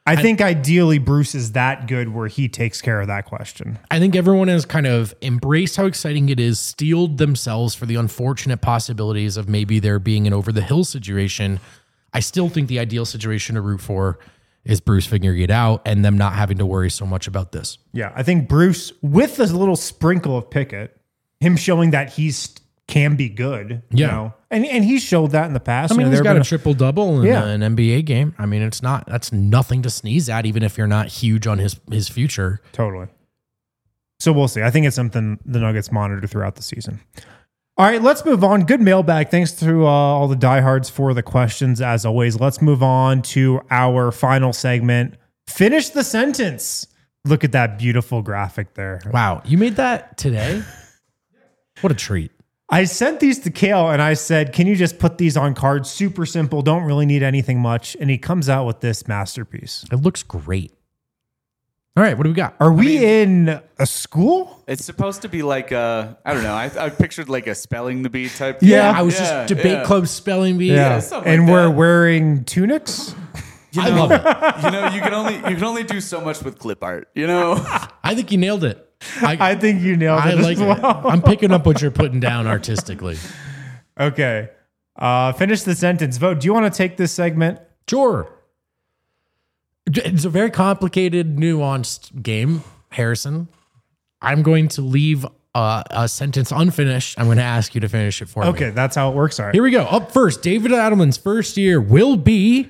I think ideally Bruce is that good where he takes care of that question. I think everyone has kind of embraced how exciting it is, steeled themselves for the unfortunate possibilities of maybe there being an over the hill situation. I still think the ideal situation to root for is Bruce figuring it out and them not having to worry so much about this. Yeah, I think Bruce, with a little sprinkle of Pickett, him showing that can be good. Yeah. You know? And he's showed that in the past. I mean, he's got a triple double in Yeah. an NBA game. I mean, that's nothing to sneeze at, even if you're not huge on his future. Totally. So we'll see. I think it's something the Nuggets monitor throughout the season. All right, let's move on. Good mailbag. Thanks to all the diehards for the questions, as always. Let's move on to our final segment. Finish the sentence. Look at that beautiful graphic there. Wow, you made that today? What a treat. I sent these to Kale and I said, can you just put these on cards? Super simple. Don't really need anything much. And he comes out with this masterpiece. It looks great. All right, what do we got? Are we in a school? It's supposed to be like I don't know. I pictured like a spelling the bee type. Yeah. I was just debate club spelling bee. something And like we're that. wearing tunics? I love it. You know, you can only do so much with clip art. You know. I think you nailed it. I think you nailed it I as like well. it. I'm picking up what you're putting down artistically. Okay. Finish the sentence. Vote. Do you want to take this segment? Sure. It's a very complicated, nuanced game, Harrison. I'm going to leave a sentence unfinished. I'm going to ask you to finish it for me. Okay, that's how it works. All right. Here we go. Up first, David Adelman's first year will be...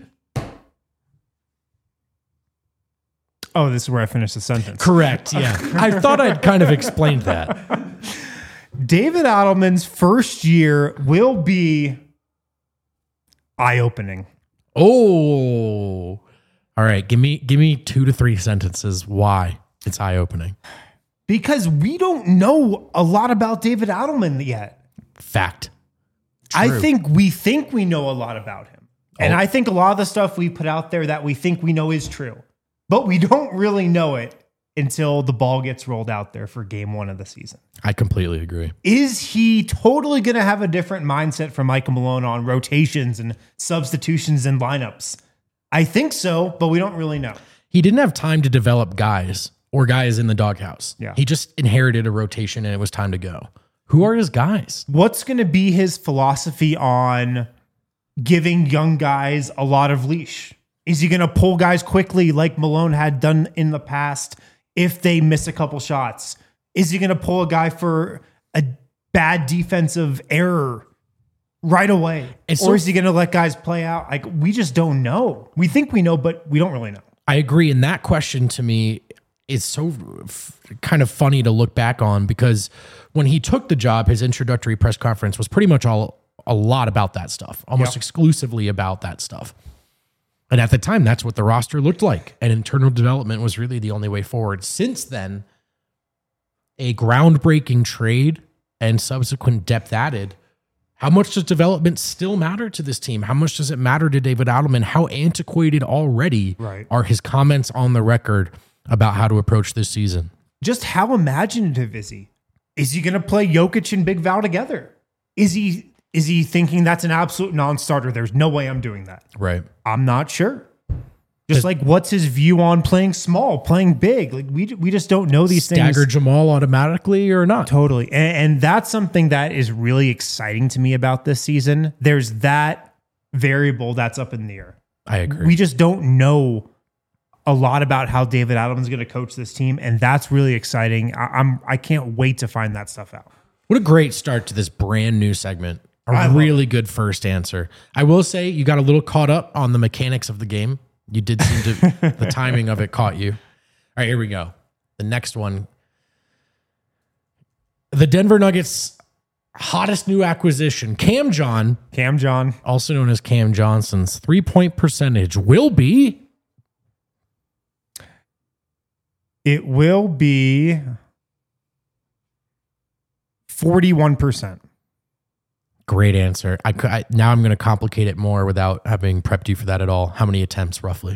Oh, this is where I finish the sentence. Correct, yeah. I thought I'd kind of explained that. David Adelman's first year will be eye-opening. Oh. All right, give me 2 to 3 sentences why it's eye-opening. Because we don't know a lot about David Adelman yet. Fact. I True. think we know a lot about him. And I think a lot of the stuff we put out there that we think we know is true. But we don't really know it until the ball gets rolled out there for game 1 of the season. I completely agree. Is he totally going to have a different mindset from Michael Malone on rotations and substitutions and lineups? I think so, but we don't really know. He didn't have time to develop guys or guys in the doghouse. Yeah. He just inherited a rotation and it was time to go. Who are his guys? What's going to be his philosophy on giving young guys a lot of leash? Is he going to pull guys quickly like Malone had done in the past if they miss a couple shots? Is he going to pull a guy for a bad defensive error right away? Or is he going to let guys play out? Like, we just don't know. We think we know, but we don't really know. I agree. And that question to me is so kind of funny to look back on because when he took the job, his introductory press conference was pretty much a lot about that stuff, almost exclusively about that stuff. And at the time, that's what the roster looked like. And internal development was really the only way forward. Since then, a groundbreaking trade and subsequent depth added. How much does development still matter to this team? How much does it matter to David Adelman? How antiquated already are his comments on the record about how to approach this season? Just how imaginative is he? Is he going to play Jokic and Big Val together? Is he thinking that's an absolute non-starter? There's no way I'm doing that. Right. I'm not sure. Just like, what's his view on playing small, playing big? Like we just don't know these things. Stagger Jamal automatically or not? Totally. And that's something that is really exciting to me about this season. There's that variable that's up in the air. I agree. We just don't know a lot about how David Adelman's going to coach this team. And that's really exciting. I can't wait to find that stuff out. What a great start to this brand new segment. I A love really good first answer. I will say you got a little caught up on the mechanics of the game. You did seem to, the timing of it caught you. All right, here we go. The next one. The Denver Nuggets' hottest new acquisition, Cam John, also known as Cam Johnson's 3-point percentage will be. It will be 41%. Great answer. Now I'm going to complicate it more without having prepped you for that at all. How many attempts roughly?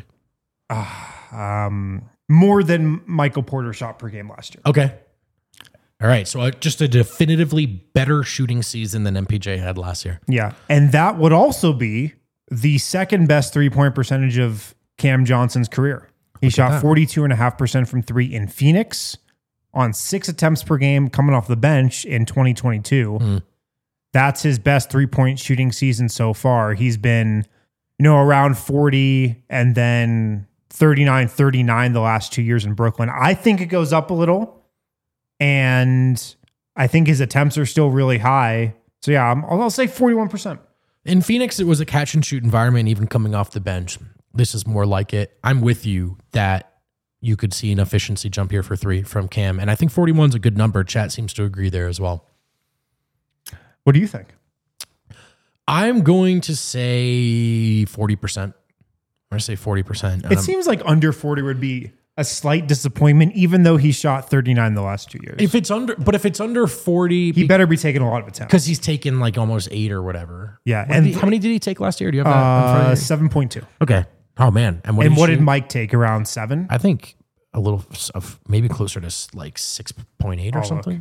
More than Michael Porter shot per game last year. Okay. All right. So just a definitively better shooting season than MPJ had last year. Yeah. And that would also be the second best 3-point percentage of Cam Johnson's career. He shot 42.5% from three in Phoenix on 6 attempts per game coming off the bench in 2022. That's his best 3-point shooting season so far. He's been, around 40 and then 39 the last 2 years in Brooklyn. I think it goes up a little, and I think his attempts are still really high. So yeah, I'll say 41%. In Phoenix, it was a catch and shoot environment, even coming off the bench. This is more like it. I'm with you that you could see an efficiency jump here for three from Cam. And I think 41 is a good number. Chat seems to agree there as well. What do you think? I'm going to say 40%. I'm going to say 40%. It seems like under 40 would be a slight disappointment, even though he shot 39 the last 2 years. If it's under 40, he better be taking a lot of attempts because he's taken like almost 8 or whatever. Yeah. How many did he take last year? Do you have that? 7.2. Okay. Oh man. And what did Mike take? Around 7? I think a little of maybe closer to like 6.8 or something.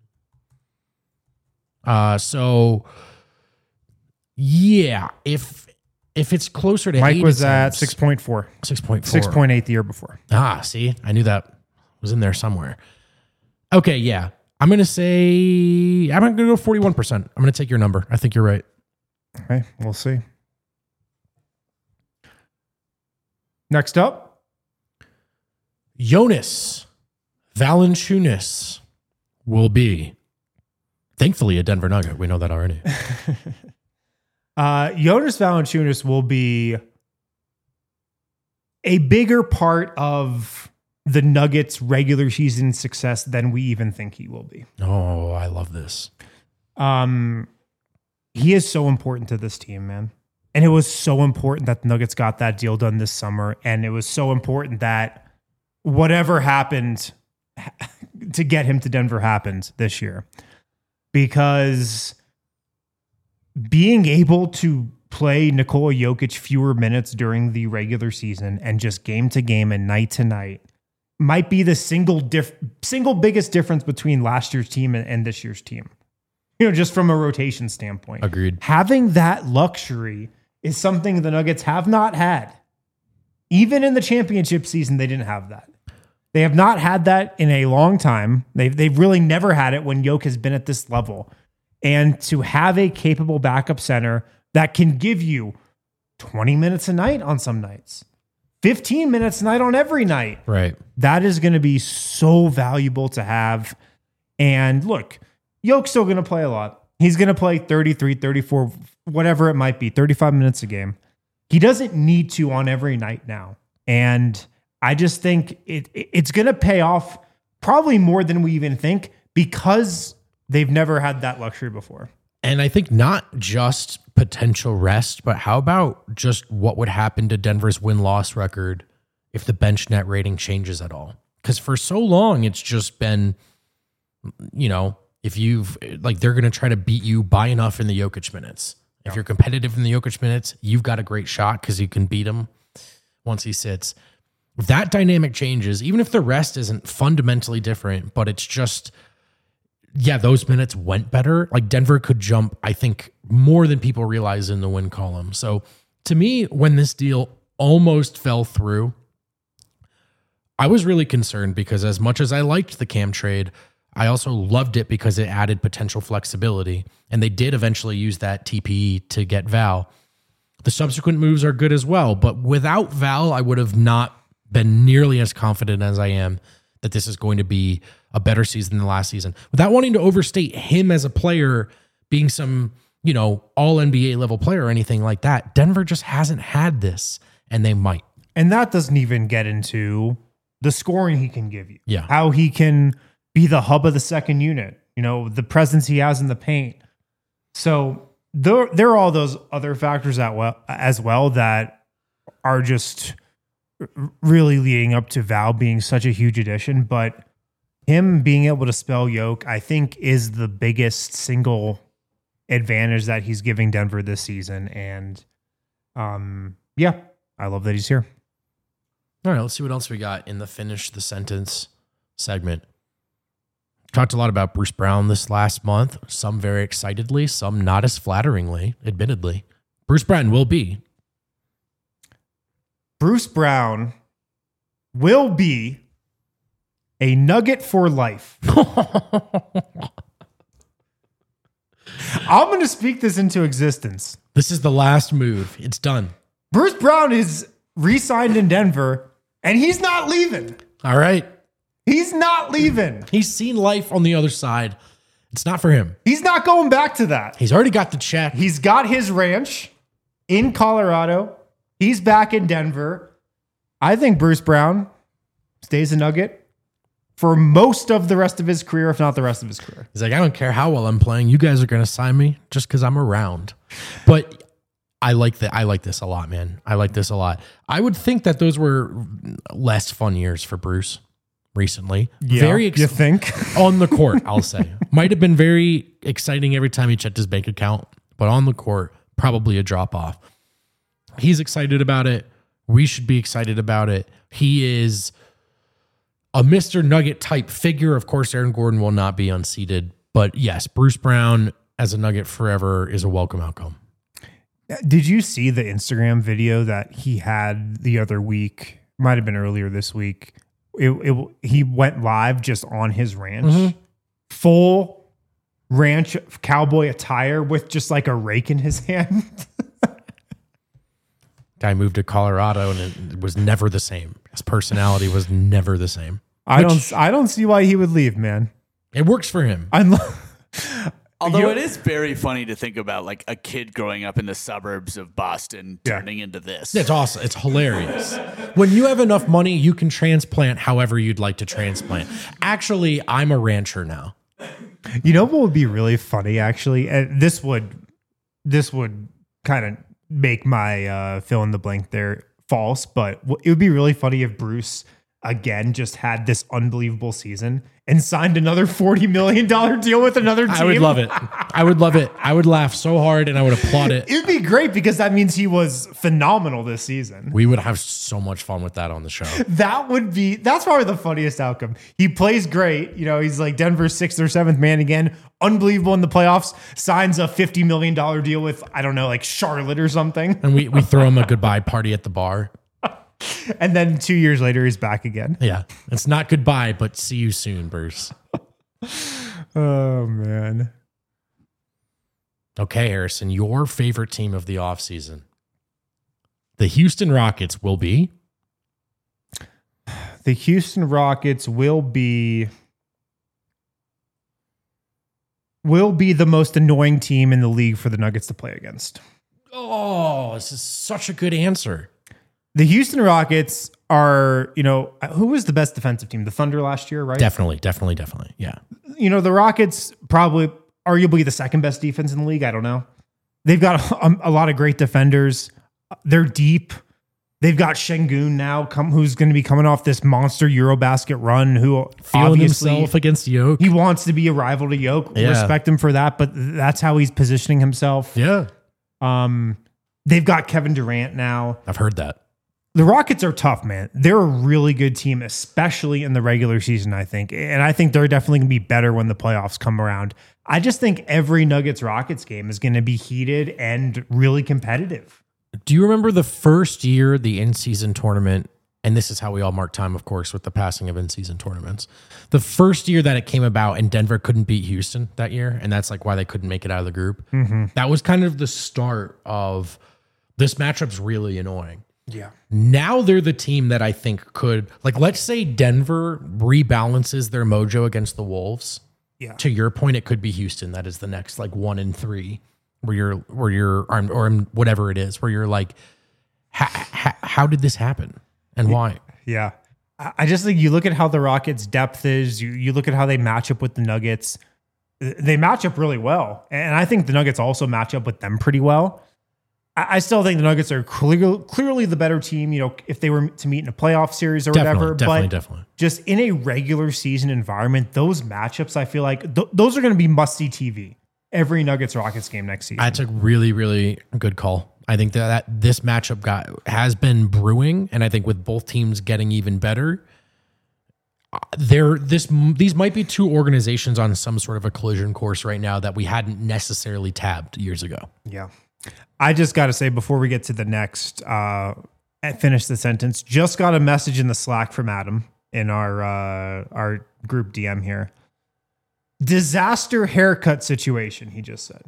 So yeah, if it's closer to Mike 8 was at attempts, 6.4. 6.4. 6.8 the year before. See, I knew that was in there somewhere. Okay, yeah. I'm going to go 41%. I'm going to take your number. I think you're right. Okay, we'll see. Next up, Jonas Valanciunas will be, thankfully, a Denver Nugget. We know that already. Jonas Valanciunas will be a bigger part of the Nuggets' regular season success than we even think he will be. Oh, I love this. He is so important to this team, man. And it was so important that the Nuggets got that deal done this summer. And it was so important that whatever happened to get him to Denver happened this year. Because being able to play Nikola Jokic fewer minutes during the regular season and just game to game and night to night might be the single biggest difference between last year's team and this year's team. Just from a rotation standpoint. Agreed. Having that luxury is something the Nuggets have not had. Even in the championship season, they didn't have that. They have not had that in a long time. They've really never had it when Jokic has been at this level. And to have a capable backup center that can give you 20 minutes a night on some nights, 15 minutes a night on every night. Right. That is going to be so valuable to have. And look, Jokic's still going to play a lot. He's going to play 33, 34, whatever it might be, 35 minutes a game. He doesn't need to on every night now. And I just think it's going to pay off probably more than we even think because they've never had that luxury before. And I think not just potential rest, but how about just what would happen to Denver's win-loss record if the bench net rating changes at all? Because for so long, it's just been, if you've they're going to try to beat you by enough in the Jokic minutes. If you're competitive in the Jokic minutes, you've got a great shot because you can beat him once he sits. If that dynamic changes, even if the rest isn't fundamentally different, but it's just, those minutes went better. Like Denver could jump, I think, more than people realize in the win column. So to me, when this deal almost fell through, I was really concerned because as much as I liked the Cam trade, I also loved it because it added potential flexibility. And they did eventually use that TPE to get Val. The subsequent moves are good as well. But without Val, I would have not been nearly as confident as I am that this is going to be a better season than last season. Without wanting to overstate him as a player being some, all NBA level player or anything like that, Denver just hasn't had this, and they might. And that doesn't even get into the scoring he can give you. Yeah. How he can be the hub of the second unit, the presence he has in the paint. So there are all those other factors as well that are just really leading up to Val being such a huge addition. But him being able to spell Yoke, I think, is the biggest single advantage that he's giving Denver this season. And I love that he's here. All right, let's see what else we got in the Finish the Sentence segment. Talked a lot about Bruce Brown this last month, some very excitedly, some not as flatteringly, admittedly. Bruce Brown will be Bruce Brown will be a Nugget for life. I'm going to speak this into existence. This is the last move. It's done. Bruce Brown is re-signed in Denver, and he's not leaving. All right. He's not leaving. He's seen life on the other side. It's not for him. He's not going back to that. He's already got the check. He's got his ranch in Colorado. He's back in Denver. I think Bruce Brown stays a Nugget for most of the rest of his career, if not the rest of his career. He's like, I don't care how well I'm playing. You guys are going to sign me just because I'm around. But I like that. I like this a lot, man. I like this a lot. I would think that those were less fun years for Bruce recently. Yeah, you think? On the court, I'll say. Might have been very exciting every time he checked his bank account, but on the court, probably a drop off. He's excited about it. We should be excited about it. He is a Mr. Nugget type figure. Of course, Aaron Gordon will not be unseated, but yes, Bruce Brown as a Nugget forever is a welcome outcome. Did you see the Instagram video that he had the other week? Might have been earlier this week. He went live just on his ranch, full ranch cowboy attire with just like a rake in his hand. Guy moved to Colorado and it was never the same. His personality was never the same. I don't see why he would leave, man. It works for him. Although it is very funny to think about like a kid growing up in the suburbs of Boston turning into this. It's awesome. It's hilarious. When you have enough money, you can transplant however you'd like to transplant. Actually, I'm a rancher now. You know what would be really funny, actually? And this would kind of make my fill in the blank there false, but it would be really funny if Bruce again just had this unbelievable season and signed another $40 million deal with another team. I would love it. I would love it. I would laugh so hard and I would applaud it. It would be great because that means he was phenomenal this season. We would have so much fun with that on the show. That's probably the funniest outcome. He plays great. You know, he's like Denver's 6th or 7th man again. Unbelievable in the playoffs. Signs a $50 million deal with, I don't know, like Charlotte or something. And we throw him a goodbye party at the bar. And then 2 years later, he's back again. Yeah. It's not goodbye, but see you soon, Bruce. Oh, man. Okay, Harrison, your favorite team of the offseason. The Houston Rockets will be? The Houston Rockets will be the most annoying team in the league for the Nuggets to play against. Oh, this is such a good answer. The Houston Rockets are, who was the best defensive team? The Thunder last year, right? Definitely. Yeah. The Rockets probably arguably the second best defense in the league. I don't know. They've got a lot of great defenders. They're deep. They've got Şengün now, who's going to be coming off this monster Eurobasket run. Who feeling himself against Jokic. He wants to be a rival to Jokic. Yeah. Respect him for that, but that's how he's positioning himself. Yeah. They've got Kevin Durant now. I've heard that. The Rockets are tough, man. They're a really good team, especially in the regular season, I think. And I think they're definitely going to be better when the playoffs come around. I just think every Nuggets-Rockets game is going to be heated and really competitive. Do you remember the first year, the in-season tournament, and this is how we all mark time, of course, with the passing of in-season tournaments. The first year that it came about and Denver couldn't beat Houston that year, and that's like why they couldn't make it out of the group. Mm-hmm. That was kind of the start of this matchup's really annoying. Yeah. Now they're the team that I think could, like, let's say Denver rebalances their mojo against the Wolves. Yeah. To your point, it could be Houston. That is the next like 1-3 where you're armed or whatever it is, where you're like, how did this happen and why? Yeah. I just think you look at how the Rockets' depth is, you look at how they match up with the Nuggets. They match up really well. And I think the Nuggets also match up with them pretty well. I still think the Nuggets are clearly the better team, if they were to meet in a playoff series or whatever. Definitely. Just in a regular season environment, those matchups, I feel like those are going to be must-see TV every Nuggets-Rockets game next season. That's a really, really good call. I think that this matchup has been brewing, and I think with both teams getting even better, these might be two organizations on some sort of a collision course right now that we hadn't necessarily tabbed years ago. Yeah. I just got to say, before we get to the next finish the sentence. Just got a message in the Slack from Adam in our group DM here. Disaster haircut situation, he just said.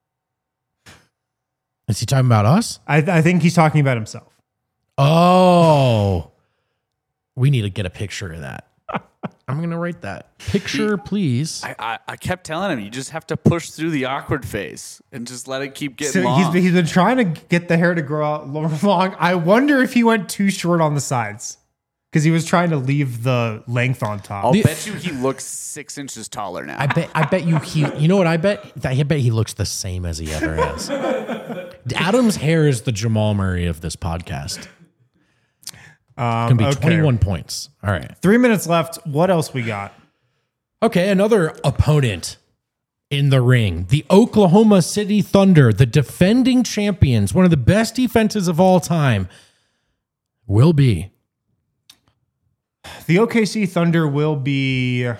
Is he talking about us? I think he's talking about himself. Oh, we need to get a picture of that. I'm going to write that. Picture, please. I kept telling him, you just have to push through the awkward phase and just let it keep getting So long. he's been trying to get the hair to grow out long. I wonder if he went too short on the sides because he was trying to leave the length on top. I'll bet you he looks 6 inches taller now. I bet you know what I bet? I bet he looks the same as he ever has. Adam's hair is the Jamal Murray of this podcast. It's going to be 21 points. All right. 3 minutes left. What else we got? Okay, another opponent in the ring. The Oklahoma City Thunder, the defending champions, one of the best defenses of all time, will be. The OKC Thunder will be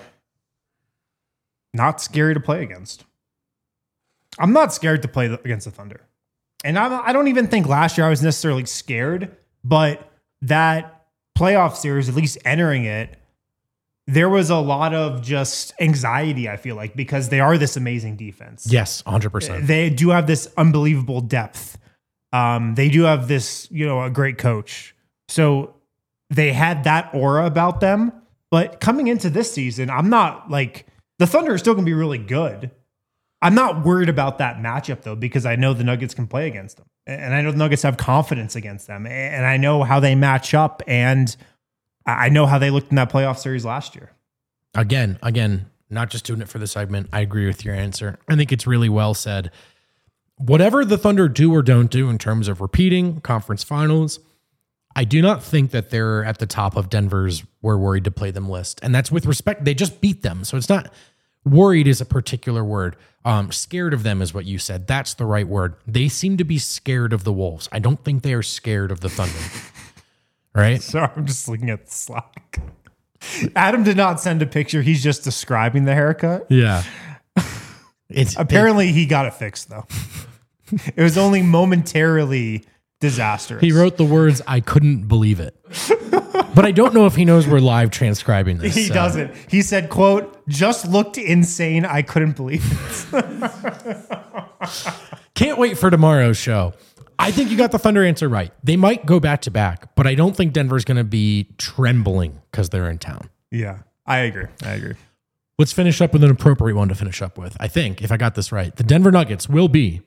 not scary to play against. I'm not scared to play against the Thunder. And I don't even think last year I was necessarily scared, but that playoff series, at least entering it, there was a lot of just anxiety, I feel like, because they are this amazing defense. Yes, 100%. They do have this unbelievable depth. They do have this, a great coach. So they had that aura about them. But coming into this season, I'm not like, the Thunder are still going to be really good. I'm not worried about that matchup, though, because I know the Nuggets can play against them. And I know the Nuggets have confidence against them. And I know how they match up. And I know how they looked in that playoff series last year. Again, not just doing it for the segment. I agree with your answer. I think it's really well said. Whatever the Thunder do or don't do in terms of repeating conference finals, I do not think that they're at the top of Denver's we're worried to play them list. And that's with respect. They just beat them. So it's not worried is a particular word. Scared of them is what you said. That's the right word. They seem to be scared of the Wolves. I don't think they are scared of the Thunder. Right? Sorry, I'm just looking at the Slack. Adam did not send a picture. He's just describing the haircut. Yeah. Apparently he got it fixed, though. It was only momentarily disastrous. He wrote the words, I couldn't believe it. But I don't know if he knows we're live transcribing this. He doesn't. He said, quote, just looked insane. I couldn't believe it. Can't wait for tomorrow's show. I think you got the Thunder answer right. They might go back to back, but I don't think Denver's going to be trembling because they're in town. Yeah, I agree. Let's finish up with an appropriate one to finish up with. I think, if I got this right, the Denver Nuggets will be.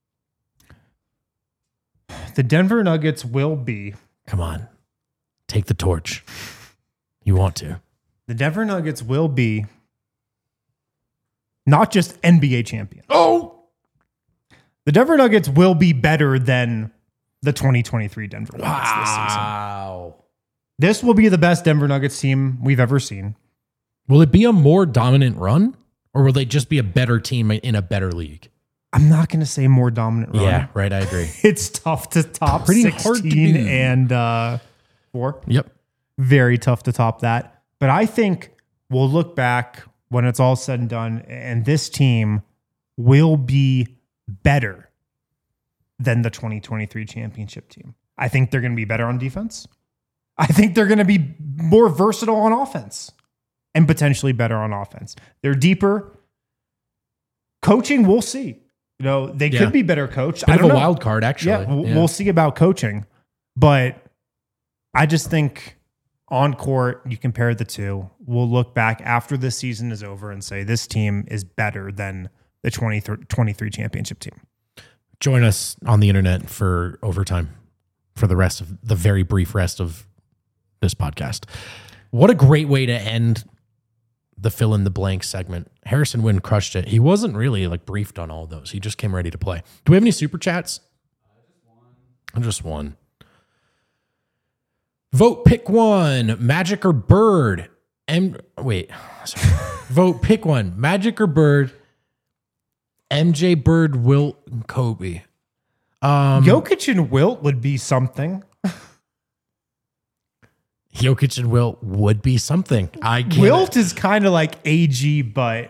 Come on. Take the torch. You want to. The Denver Nuggets will be not just NBA champions. Oh! The Denver Nuggets will be better than the 2023 Denver Nuggets this season. Wow. This will be the best Denver Nuggets team we've ever seen. Will it be a more dominant run? Or will they just be a better team in a better league? I'm not going to say more dominant run. Yeah, right. I agree. It's tough to top Pretty 16 hard to do. and 4. Yep. Very tough to top that. But I think we'll look back when it's all said and done, and this team will be better than the 2023 championship team. I think they're going to be better on defense. I think they're going to be more versatile on offense and potentially better on offense. They're deeper. Coaching, we'll see. They could be better coached. Bit of a wild card, actually. Yeah, we'll see about coaching. But I just think on court, you compare the two. We'll look back after this season is over and say this team is better than the 2023 championship team. Join us on the internet for overtime for the very brief rest of this podcast. What a great way to end the fill in the blank segment. Harrison Wind crushed it. He wasn't really briefed on all of those. He just came ready to play. Do we have any super chats? Just one. Vote pick one, Magic or Bird. Vote pick one, Magic or Bird. MJ, Bird, Wilt, and Kobe. Jokic and Wilt would be something. Jokic and Wilt would be something. Wilt is kind of like AG, but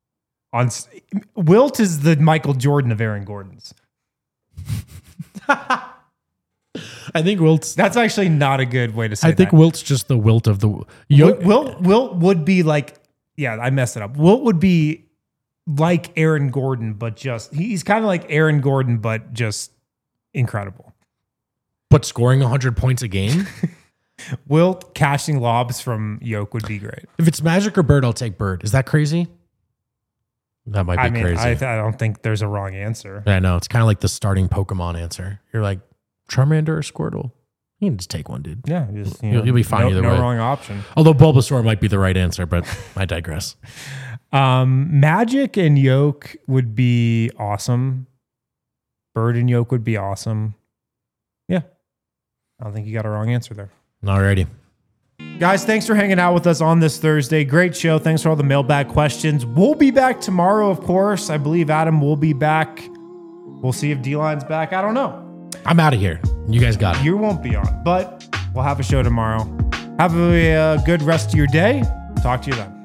Wilt is the Michael Jordan of Aaron Gordon's. I think Wilt's. That's actually not a good way to say I think that. Wilt's just the Wilt of the. Wilt would be like, yeah, I messed it up. Wilt would be like Aaron Gordon, but he's kind of like Aaron Gordon, but just incredible. But scoring 100 points a game. Wilt catching lobs from Yoke would be great. If it's Magic or Bird, I'll take Bird. Is that crazy? That might be crazy. I don't think there's a wrong answer. I know. It's kind of like the starting Pokemon answer. You're like, Charmander or Squirtle? You can just take one, dude. Yeah, just, You'll be fine either way. No wrong option. Although Bulbasaur might be the right answer, but I digress. Magic and Yoke would be awesome. Bird and Yoke would be awesome. Yeah. I don't think you got a wrong answer there. Alrighty. Guys, thanks for hanging out with us on this Thursday. Great show. Thanks for all the mailbag questions. We'll be back tomorrow, of course. I believe Adam will be back. We'll see if D-Line's back. I don't know. I'm out of here. You guys got it. You won't be on, but we'll have a show tomorrow. Have a good rest of your day. Talk to you then.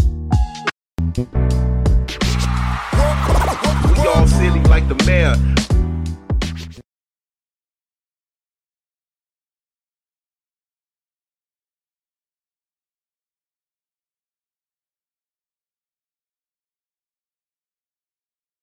We all silly like the mayor.